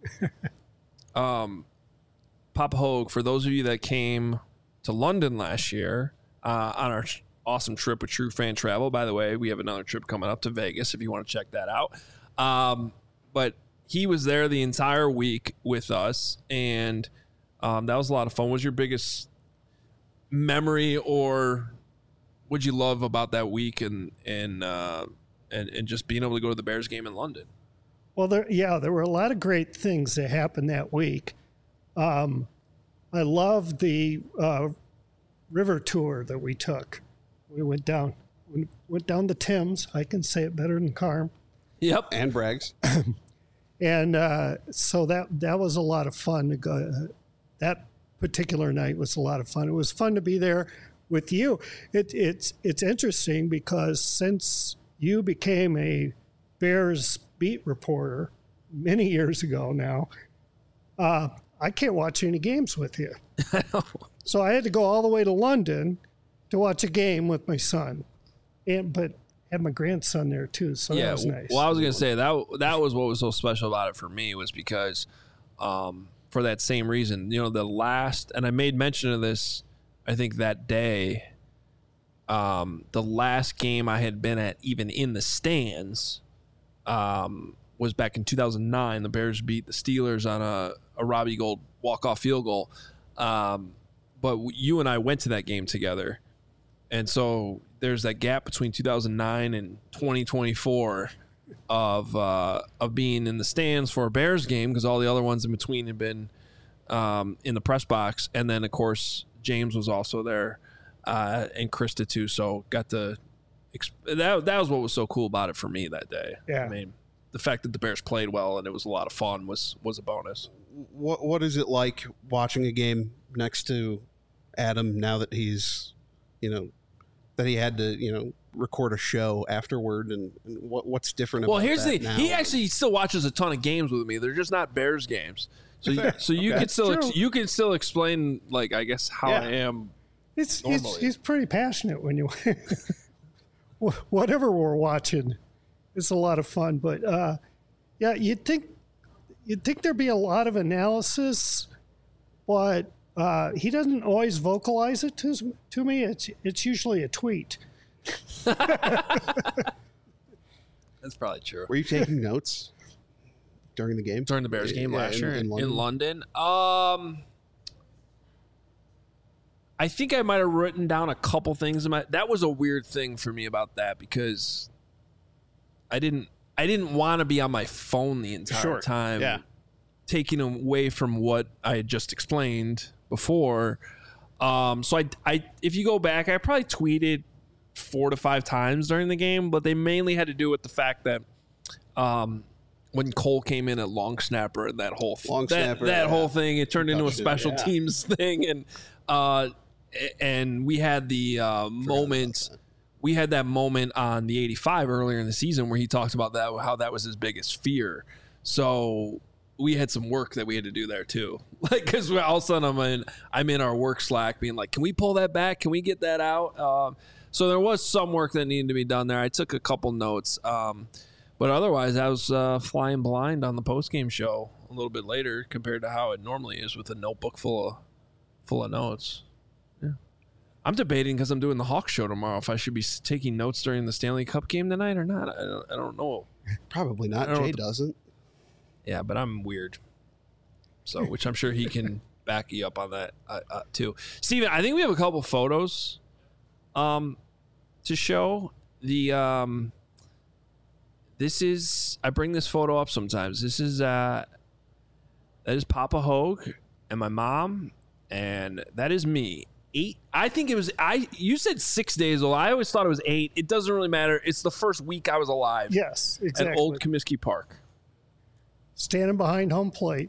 Um, Papa Hogue, for those of you that came to London last year uh, on our awesome trip with True Fan Travel. By the way, we have another trip coming up to Vegas if you want to check that out. Um, but he was there the entire week with us, and um, that was a lot of fun. What was your biggest memory, or what'd you love about that week and and uh, and and just being able to go to the Bears game in London? Well, there, yeah, there were a lot of great things that happened that week. Um, I loved the uh, river tour that we took. We went down, we went down the Thames. I can say it better than Carm. Yep. And Braggs. And uh, so that that was a lot of fun to go. Uh, that particular night was a lot of fun. It was fun to be there with you. It, it's it's interesting because since you became a Bears beat reporter many years ago now, uh, I can't watch any games with you. So I had to go all the way to London to watch a game with my son, and but had my grandson there too. So that was nice. Well, I was gonna say that that was what was so special about it for me was because, um, for that same reason, you know, the last, and I made mention of this, I think that day, um, the last game I had been at, even in the stands, um, was back in two thousand nine. The Bears beat the Steelers on a, a Robbie Gould walk-off field goal. Um, but you and I went to that game together. And so there's that gap between two thousand nine and twenty twenty-four of uh, of being in the stands for a Bears game because all the other ones in between have been um, in the press box, and then of course James was also there, uh, and Krista too. So got to exp- that. That was what was so cool about it for me that day. Yeah. I mean, the fact that the Bears played well and it was a lot of fun was was a bonus. What What is it like watching a game next to Adam now that he's, you know, that he had to, you know, record a show afterward, and, and what what's different Well, about here's that the now? he actually still watches a ton of games with me. They're just not Bears games. So you, so you Okay. can still ex- True. you can still explain, like, I guess how Yeah. I am. He's, he's, Normally. he's pretty passionate when you whatever we're watching. It's a lot of fun, but uh, yeah, you'd think you'd think there'd be a lot of analysis, but uh, he doesn't always vocalize it to to me. It's it's usually a tweet. That's probably true. Were you taking notes during the game? During the Bears game Yeah, last in- year in in, London? in London, um, I think I might have written down a couple things. In my, that was a weird thing for me about that because I didn't I didn't want to be on my phone the entire Sure. time, Yeah. taking away from what I had just explained before. Um, so I, I, if you go back, I probably tweeted four to five times during the game, but they mainly had to do with the fact that um, when Cole came in at long snapper and that whole Long that, snapper, that yeah. whole thing, it turned into a Touchdown, special yeah. teams thing, and uh, and we had the uh, moment. We had that moment on the eighty-five earlier in the season where he talked about that, how that was his biggest fear. So we had some work that we had to do there too. Like, cause all of a sudden I'm in, I'm in our work Slack being like, can we pull that back? Can we get that out? Um, so there was some work that needed to be done there. I took a couple notes. Um, but otherwise I was uh, flying blind on the post-game show a little bit later compared to how it normally is with a notebook full of, full of notes. I'm debating because I'm doing the Hawks show tomorrow if I should be s- taking notes during the Stanley Cup game tonight or not. I don't, I don't know. Probably not. I don't know Jay what the- doesn't. Yeah, but I'm weird. So, which I'm sure he can back you up on that uh, uh, too. Steven, I think we have a couple photos um, to show. The um, this is I bring this photo up sometimes. This is uh, that is Papa Hogue and my mom, and that is me. Eight. I think it was. I. You said six days old. I always thought it was eight. It doesn't really matter. It's the first week I was alive. Yes, exactly. At Old Comiskey Park. Standing behind home plate.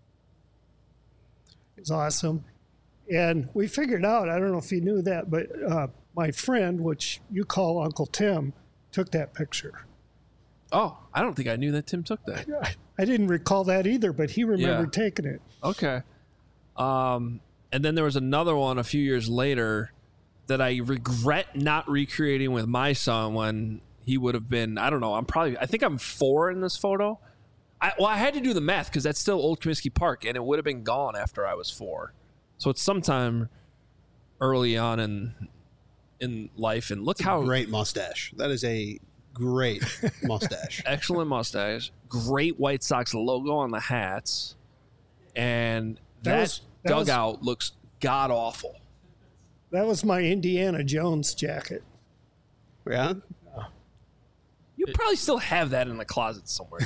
It's awesome. And we figured out, I don't know if you knew that, but uh, my friend, which you call Uncle Tim, took that picture. Oh, I don't think I knew that Tim took that. I didn't recall that either, but he remembered Yeah. taking it. Okay. Um, and then there was another one a few years later that I regret not recreating with my son when he would have been, I don't know, I'm probably, I think I'm four in this photo. I, well, I had to do the math because that's still Old Comiskey Park, and it would have been gone after I was four. So it's sometime early on in in life. And look how Great mustache. That is a great mustache. excellent mustache, great White Sox logo on the hats, and That that, was- that was- dugout looks god awful. That was my Indiana Jones jacket. Yeah. You probably still have that in the closet somewhere.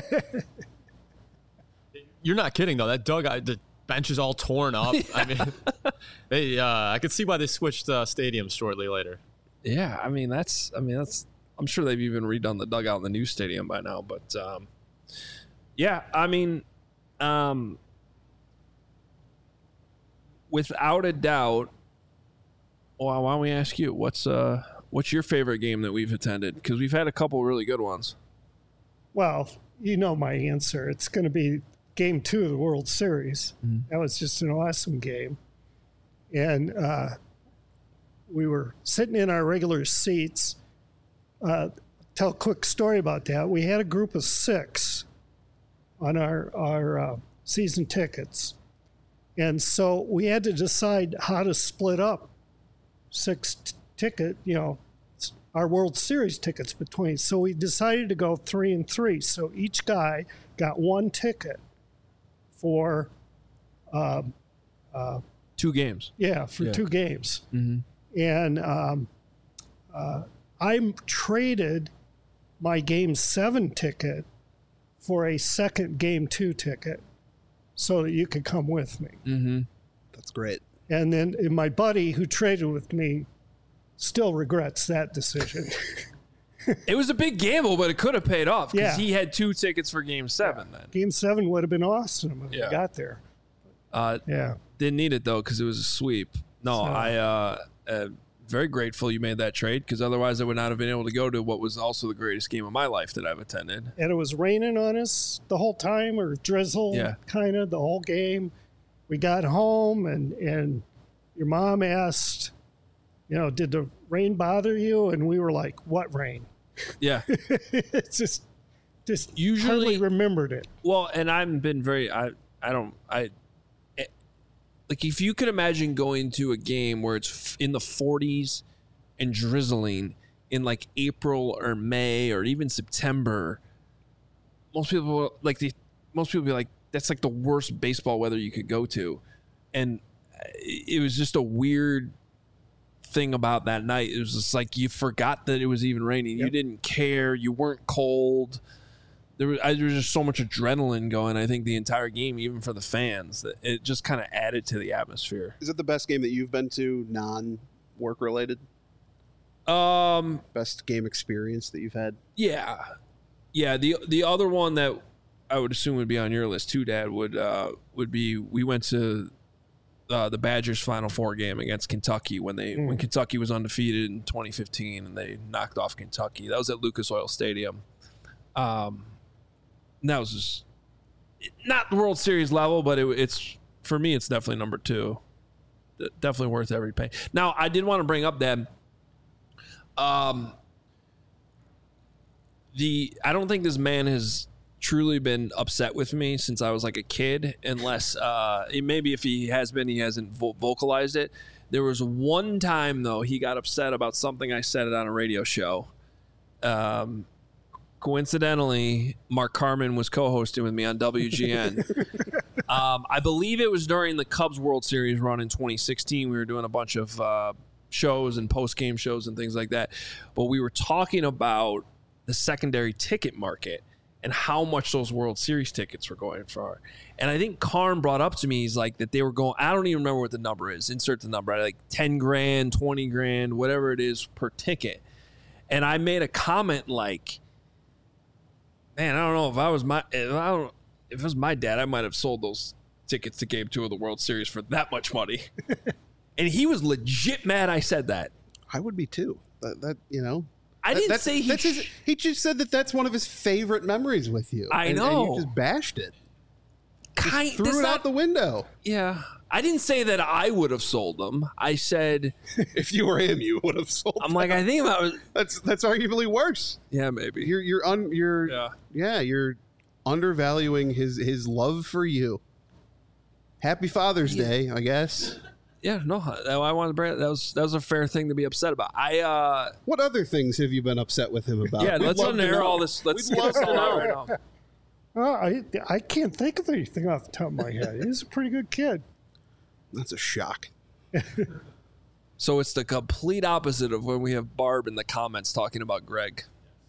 You're not kidding though. That dugout, the bench is all torn up. I mean, they, uh, I could see why they switched uh, stadiums shortly later. Yeah, I mean that's. I mean that's. I'm sure they've even redone the dugout in the new stadium by now. But um, yeah, I mean, um, without a doubt. Well, why don't we ask you what's uh what's your favorite game that we've attended? Because we've had a couple really good ones. Well, you know my answer. It's going to be game two of the World Series. That was just an awesome game. And uh, we were sitting in our regular seats. Uh, tell a quick story about that. We had a group of six on our, our uh, season tickets. And so we had to decide how to split up six t- ticket, you know, our World Series tickets between. So we decided to go three and three. So each guy got one ticket for, um, uh, Two games. yeah, for Yeah. two games. Mm-hmm. And um, uh, I traded my game seven ticket for a second game two ticket. so that you could come with me. Mm-hmm. That's great. And then and my buddy who traded with me still regrets that decision. It was a big gamble, but it could have paid off because Yeah. he had two tickets for Game Seven. Then Game seven would have been awesome if Yeah. we got there. uh, Yeah. didn't need it though because it was a sweep. No, So- I uh, uh, very grateful you made that trade because otherwise I would not have been able to go to what was also the greatest game of my life that I've attended. And it was raining on us the whole time, or drizzle, Yeah. kind of the whole game. We got home, and and your mom asked, you know, did the rain bother you? And we were like, what rain? Yeah. It's just, just Usually- hardly remembered it. Well, and I've been very, I, I don't, I, it, like if you could imagine going to a game where it's f- in the forties and drizzling in like April or May or even September, most people will- like the, most people be like, that's like the worst baseball weather you could go to. And it was just a weird thing about that night. It was just like you forgot that it was even raining. You Yep. didn't care. You weren't cold. There was, I, there was just so much adrenaline going. I think the entire game, even for the fans, that it just kind of added to the atmosphere. Is it the best game that you've been to, non-work related? Um, Best game experience that you've had? yeah, yeah. The the other one that I would assume would be on your list too, Dad, would uh would be we went to uh, the Badgers Final Four game against Kentucky when they Mm. when Kentucky was undefeated in twenty fifteen and they knocked off Kentucky. That was at Lucas Oil Stadium. Um, and that was just not the World Series level, but it, it's for me, it's definitely number two. D- Definitely worth every penny. Now, I did want to bring up that. Um, the I don't think this man has truly been upset with me since I was like a kid, unless uh, it, maybe if he has been, he hasn't vo- vocalized it. There was one time though he got upset about something I said on a radio show. Um, coincidentally, Mark Carman was co-hosting with me on W G N. um, I believe it was during the Cubs World Series run in twenty sixteen. We were doing a bunch of uh, shows and post-game shows and things like that, but we were talking about the secondary ticket market and how much those World Series tickets were going for. And I think Karn brought up to me, he's like, that they were going, I don't even remember what the number is. Insert the number, like ten grand, twenty grand, whatever it is per ticket. And I made a comment like, man, I don't know if I was my, if I don't, if it was my dad, I might have sold those tickets to Game Two of the World Series for that much money. And he was legit mad I said that. I would be too. That, that you know. I That- didn't that's, say he. that's his, sh- he just said that that's one of his favorite memories with you. I and, know. And you just bashed it. kind, Threw that's it not- out the window. Yeah. I didn't say that I would have sold them. I said, If you were him, you would have sold. I'm like, I think I was. That's that's arguably worse. Yeah, maybe. You're you're un you're Yeah. yeah you're undervaluing his his love for you. Happy Father's Day, I guess. Yeah, no, I wanted to bring that was that was a fair thing to be upset about. I uh What other things have you been upset with him about? yeah, We'd let's love to unair know. all this. Let's We'd get love this to out know. right now. Oh, I, I can't think of anything off the top of my head. He's a pretty good kid. That's a shock. So it's the complete opposite of when we have Barb in the comments talking about Greg.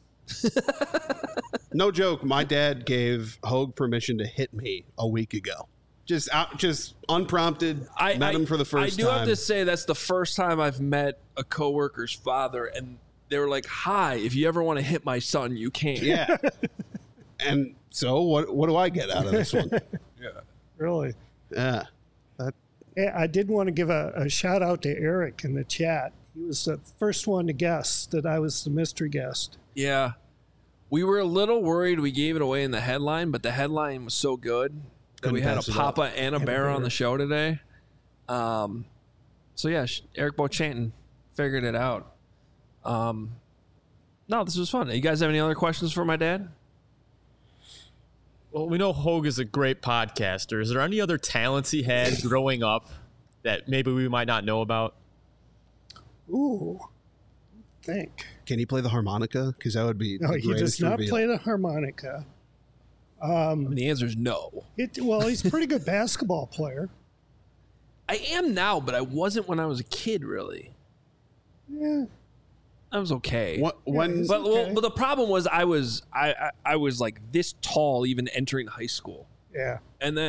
No joke. My dad gave Hogue permission to hit me a week ago. Just out, just unprompted. I met I, him for the first I do time. have to say that's the first time I've met a coworker's father, and they were like, "Hi, if you ever want to hit my son, you can." Yeah. And so, what what do I get out of this one? Yeah. Really. Yeah. That Yeah, I did want to give a, a shout out to Eric in the chat. He was the first one to guess that I was the mystery guest. Yeah. We were a little worried we gave it away in the headline, but the headline was so good that Couldn't we had a pass it up. Papa and a And a Bear on bear. the show today. Um, so yeah, sh- Eric Bochanton figured it out. Um, no, this was fun. You guys have any other questions for my dad? Well, we know Hogue is a great podcaster. Is there any other talents he had growing up that maybe we might not know about? Ooh. Think. can he play the harmonica? Because that would be No, the he does greatest not reveal. play the harmonica. I mean, the answer is no. It, well, he's a pretty good basketball player. I am now, but I wasn't when I was a kid, really. Yeah. I was okay. What, when he's- But, well, okay. but the problem was I was I, I I was like this tall even entering high school, Yeah. and then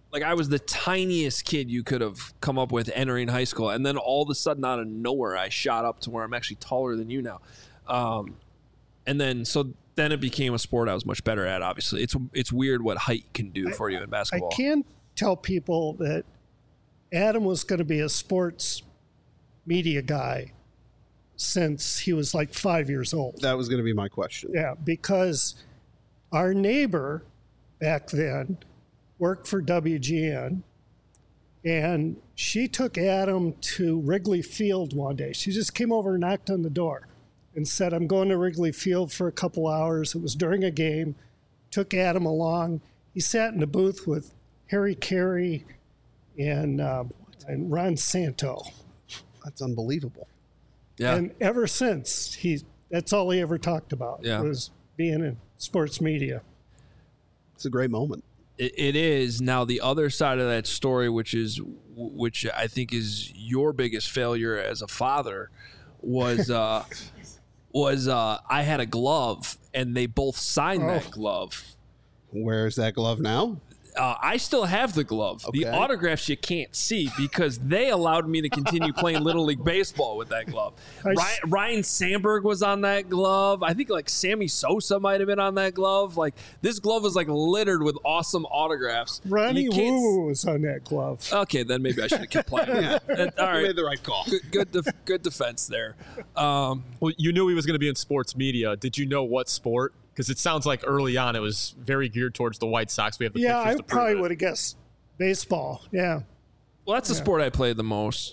Like I was the tiniest kid you could have come up with entering high school, and then all of a sudden, out of nowhere, I shot up to where I'm actually taller than you now. Um, and then so then it became a sport I was much better at. Obviously, it's it's weird what height can do I, for you in basketball. I can tell people that Adam was going to be a sports media guy since he was like five years old. That was going to be my question. Yeah, because our neighbor back then worked for W G N, and she took Adam to Wrigley Field one day. She just came over and knocked on the door and said, I'm going to Wrigley Field for a couple hours. It was during a game. Took Adam along. He sat in the booth with Harry Carey and, uh, and Ron Santo. That's unbelievable. Yeah. And ever since, he that's all he ever talked about Yeah. was being in sports media. It's a great moment. It, it is. Now the other side of that story, which is which I think is your biggest failure as a father, was uh, was uh, I had a glove and they both signed Oh. that glove. Where's that glove now? Uh, I still have the glove. The Okay. autographs you can't see because they allowed me to continue playing Little League Baseball with that glove. I Ryan, s- Ryan Sandberg was on that glove. I think like Sammy Sosa might have been on that glove. Like this glove was like littered with awesome autographs. Ronnie You can't Woo was on that glove. s- Okay, then maybe I should have kept playing. Yeah. Uh, all You right. made the right call. Good, good, def- good defense there. Um, Well, you knew he was going to be in sports media. Did you know what sport? Because it sounds like early on it was very geared towards the White Sox. We have the Yeah, pictures I to prove probably it. would have guessed baseball. Yeah. Well, that's the sport I played the most.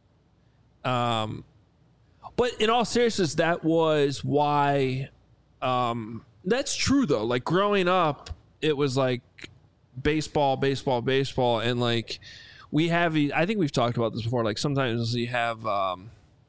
Um, but in all seriousness, that was why. Um, that's true though. Like growing up, it was like baseball, baseball, baseball, and like we have. I think we've talked about this before. Like sometimes you have. Um,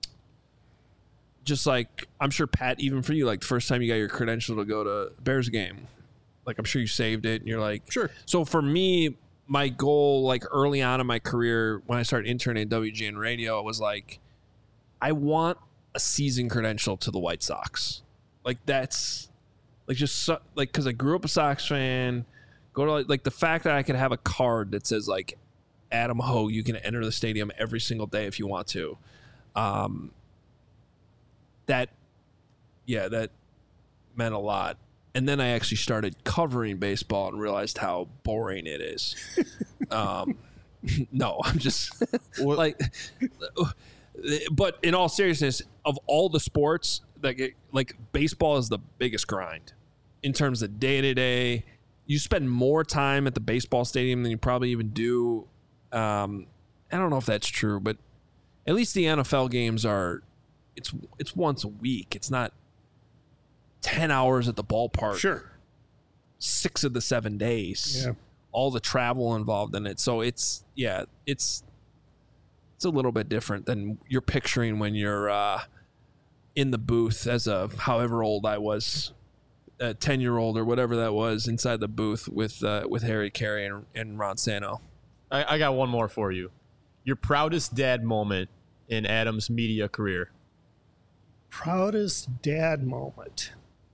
just like I'm sure Pat, even for you, like the first time you got your credential to go to Bears game, like I'm sure you saved it and you're like, Sure. So for me, my goal, like early on in my career, when I started interning at W G N Radio, it was like, I want a season credential to the White Sox. Like that's like just so, like because I grew up a Sox fan. Go to like, like the fact that I could have a card that says like Adam Ho, you can enter the stadium every single day if you want to. Um, that, yeah, that meant a lot. And then I actually started covering baseball and realized how boring it is. um, no, I'm just like, but in all seriousness, of all the sports, like like baseball is the biggest grind in terms of day to day. You spend more time at the baseball stadium than you probably even do. Um, I don't know if that's true, but at least the N F L games are. It's it's once a week. It's not ten hours at the ballpark. Sure. Six of the seven days. Yeah. All the travel involved in it. So it's yeah, it's it's a little bit different than you're picturing when you're uh, in the booth as a however old I was, a ten year old or whatever that was inside the booth with uh, with Harry Carey and, and Ron Santo. I, I got one more for you. Your proudest dad moment in Adam's media career. Proudest dad moment.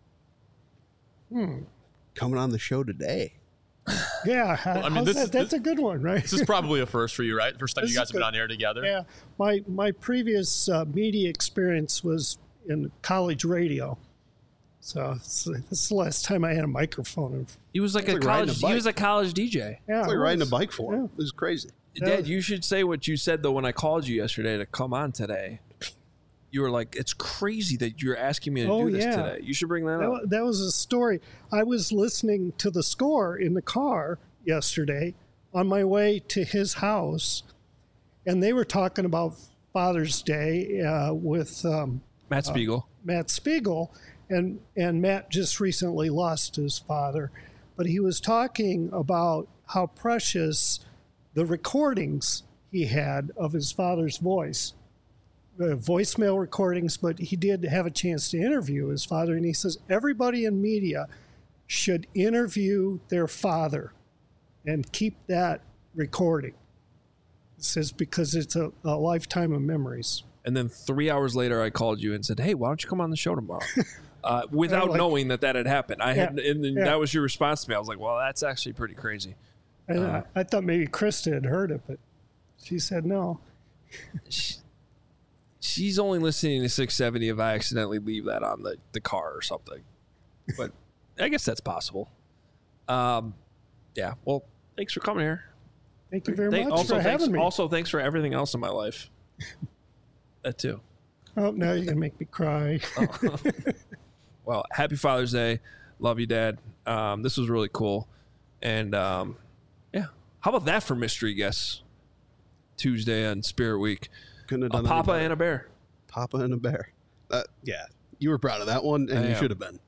Coming on the show today. Yeah, how, I mean, how's this that? is- That's a good one, right? This is probably a first for you, right? First time This you is guys have been good. on air together. Yeah, my my previous uh, media experience was in college radio, so it's, this is the last time I had a microphone. He was like It's a like riding college. a he was bike. a college D J. Yeah, It's like it riding a was. bike for him. Yeah. This is crazy. Dad, you should say what you said though when I called you yesterday to come on today. You were like, "It's crazy that you're asking me to Oh, do this yeah. today." You should bring that, That, up. wa- that was a story. I was listening to the score in the car yesterday on my way to his house, and they were talking about Father's Day uh, with um, Matt Spiegel. Matt Spiegel, and and Matt just recently lost his father, but he was talking about how precious the recordings he had of his father's voice, the voicemail recordings, but he did have a chance to interview his father, and he says everybody in media should interview their father and keep that recording. He says because it's a, a lifetime of memories. And then three hours later, I called you and said, "Hey, why don't you come on the show tomorrow?" uh, without like- knowing that that had happened. I had, Yeah, and then yeah. that was your response to me. I was like, "Well, that's actually pretty crazy." And Uh, I, I thought maybe Krista had heard it, but she said no. she, she's only listening to six seventy if I accidentally leave that on the, the car or something. But I guess that's possible. Um, yeah. Well, thanks for coming here. Thank you very Thank, much also, for thanks, having me. also, thanks for everything else in my life. That too. Oh, now you're going to make me cry. Oh. Well, happy Father's Day. Love you, Dad. Um, this was really cool. And um, yeah. How about that for mystery guests? Tuesday on Spirit Week. Couldn't have A done Papa any and a bear. Papa and a bear. Uh, yeah, you were proud of that one, and I you am. should have been.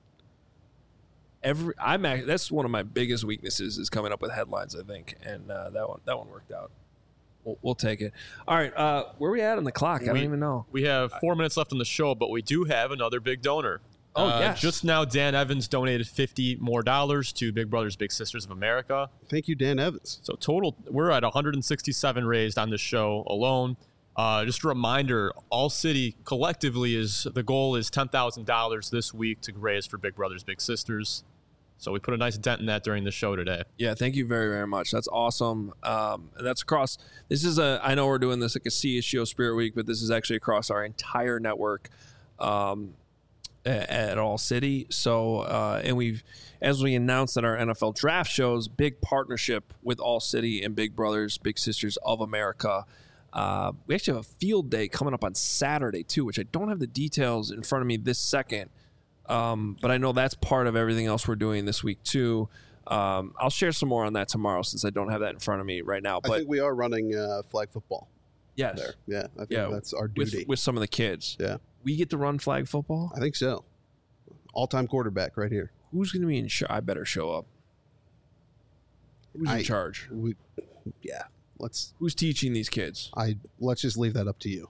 Every I'm act- that's one of my biggest weaknesses is coming up with headlines, I think, and uh, that one that one worked out. We'll, we'll take it. All right, uh, where are we at on the clock? I don't We- even know. We have four minutes left on the show, but we do have another big donor. Oh, Uh, yes. Just now, Dan Evans donated fifty more dollars to Big Brothers Big Sisters of America. Thank you, Dan Evans. So total, we're at one hundred sixty-seven raised on this show alone. Uh, just a reminder, All City collectively is the goal is ten thousand dollars this week to raise for Big Brothers Big Sisters. So we put a nice dent in that during the show today. Yeah, thank you very, very much. That's awesome. Um, and that's across. This is a. I know we're doing this like a C S G O Spirit Week, but this is actually across our entire network um, at, at All City. So, uh, and we've, as we announced at our N F L draft shows, big partnership with All City and Big Brothers Big Sisters of America. Uh, we actually have a field day coming up on Saturday too, which I don't have the details in front of me this second. Um, but I know that's part of everything else we're doing this week too. Um, I'll share some more on that tomorrow since I don't have that in front of me right now. I But think we are running uh, flag football yes, there. Yeah, I think Yeah, that's our with, duty. with some of the kids. Yeah. We get to run flag football. I think so. All-time quarterback right here. Who's going to be in charge? I better show up. Who's in I- charge? We, yeah. Let's. Who's teaching these kids? I let's just leave that up to you.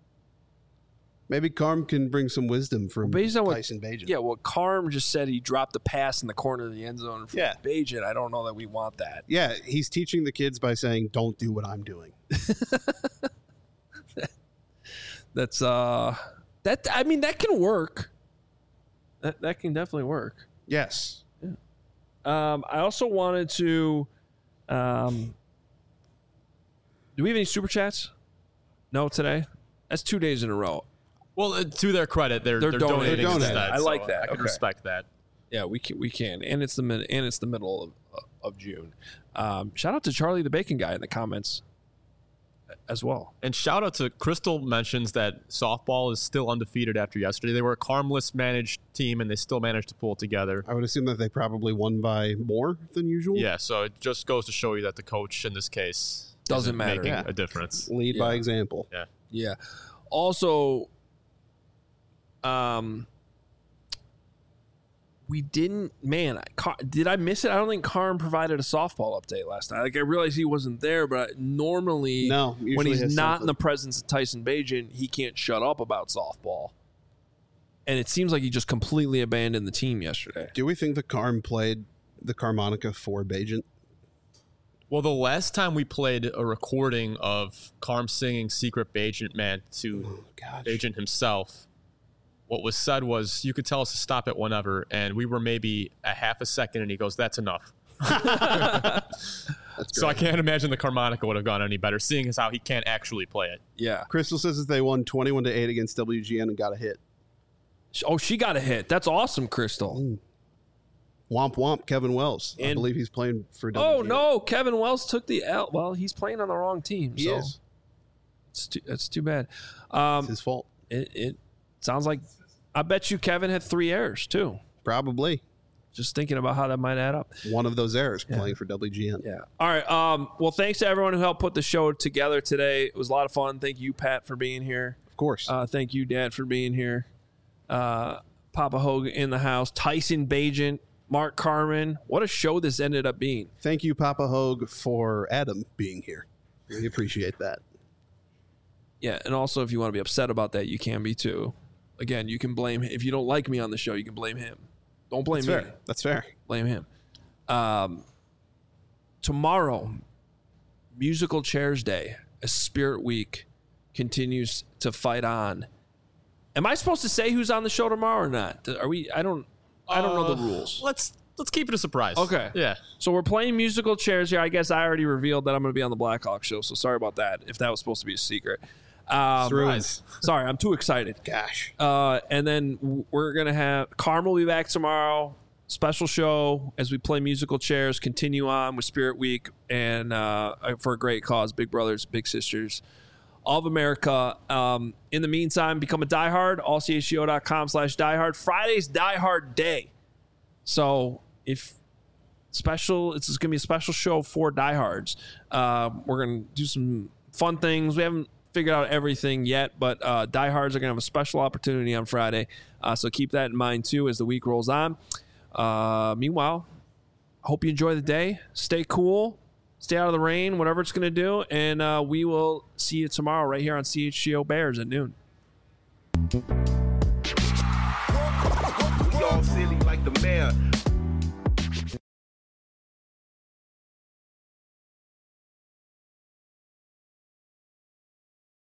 Maybe Carm can bring some wisdom from Well, based on what- Tyson Bagent. Yeah, well, Carm just said he dropped the pass in the corner of the end zone for Yeah. Bajan. I don't know that we want that. Yeah, he's teaching the kids by saying, "Don't do what I'm doing." That's uh, that I mean that can work. That that can definitely work. Yes. Um, I also wanted to. Um, do we have any super chats? No, today. That's two days in a row. Well, uh, to their credit, they're, They're they're, donating. donating, They're donating. instead. I like so that. I can Okay. respect that. Yeah, we can. We can, and it's the mid, and it's the middle of of June. Um, shout out to Charlie the Bacon Guy in the comments as well. And shout out to Crystal mentions that softball is still undefeated after yesterday. They were a Carmless managed team, and they still managed to pull it together. I would assume that they probably won by more than usual. Yeah, so it just goes to show you that the coach in this case Doesn't isn't matter. making Yeah. a difference. Lead by Yeah. example. Yeah. Yeah. Also, um, we didn't. Man, I, Car- did I miss it? I don't think Carm provided a softball update last night. Like I realized he wasn't there, but normally, No, when usually he's has not something. in the presence of Tyson Bagent, he can't shut up about softball. And it seems like he just completely abandoned the team yesterday. Do we think the Carm played the Carmonica for Bagent? Well, the last time we played a recording of Carm singing Secret Agent Man to Gosh. Agent himself, what was said was, you could tell us to stop it whenever, and we were maybe a half a second, and he goes, that's enough. That's So I great. can't imagine the Carmonica would have gone any better, seeing as how he can't actually play it. Yeah. Crystal says that they won twenty-one to eight against W G N and got a hit. Oh, she got a hit. That's awesome, Crystal. Womp womp, Kevin Wells. I And- believe he's playing for W G N. Oh no, Kevin Wells took the L. Well, he's playing on the wrong team. He so is. It's too, that's too bad. Um, It's his fault. it, it sounds like I bet you Kevin had three errors too. Probably. Just thinking about how that might add up. One of those errors playing for W G N. Yeah. All right. Um, well, thanks to everyone who helped put the show together today. It was a lot of fun. Thank you, Pat, for being here. Of course. Uh, thank you, Dad, for being here. Uh, Papa Hogue in the house. Tyson Bagent, Mark Carman. What a show this ended up being. Thank you, Papa Hogue, for Adam being here. We appreciate that. Yeah, and also if you want to be upset about that, you can be too. Again, you can blame if you don't like me on the show, you can blame him. Don't blame That's me. fair. That's fair. Blame him. Um, tomorrow, Musical Chairs Day, a Spirit Week, continues to fight on. Am I supposed to say who's on the show tomorrow or not? Are we? I don't. I don't know the Uh, rules. Let's let's keep it a surprise. Okay. Yeah. So we're playing musical chairs here. I guess I already revealed that I'm going to be on the Blackhawk show, so sorry about that. If that was supposed to be a secret. Um, Surprise. Sorry, I'm too excited. Gosh. Uh, and then we're gonna have Carm will be back tomorrow. Special show as we play musical chairs. Continue on with Spirit Week and uh, for a great cause, Big Brothers Big Sisters of America. Um, in the meantime, become a diehard. all c h g o dot com slash diehard. Friday's diehard day. So if special, it's gonna be a special show for diehards. Uh, we're gonna do some fun things. We haven't figured out everything yet, but uh, diehards are going to have a special opportunity on Friday. Uh, so keep that in mind, too, as the week rolls on. Uh, meanwhile, I hope you enjoy the day. Stay cool. Stay out of the rain, whatever it's going to do. And uh, we will see you tomorrow right here on C H G O Bears at noon. We all silly like the mayor.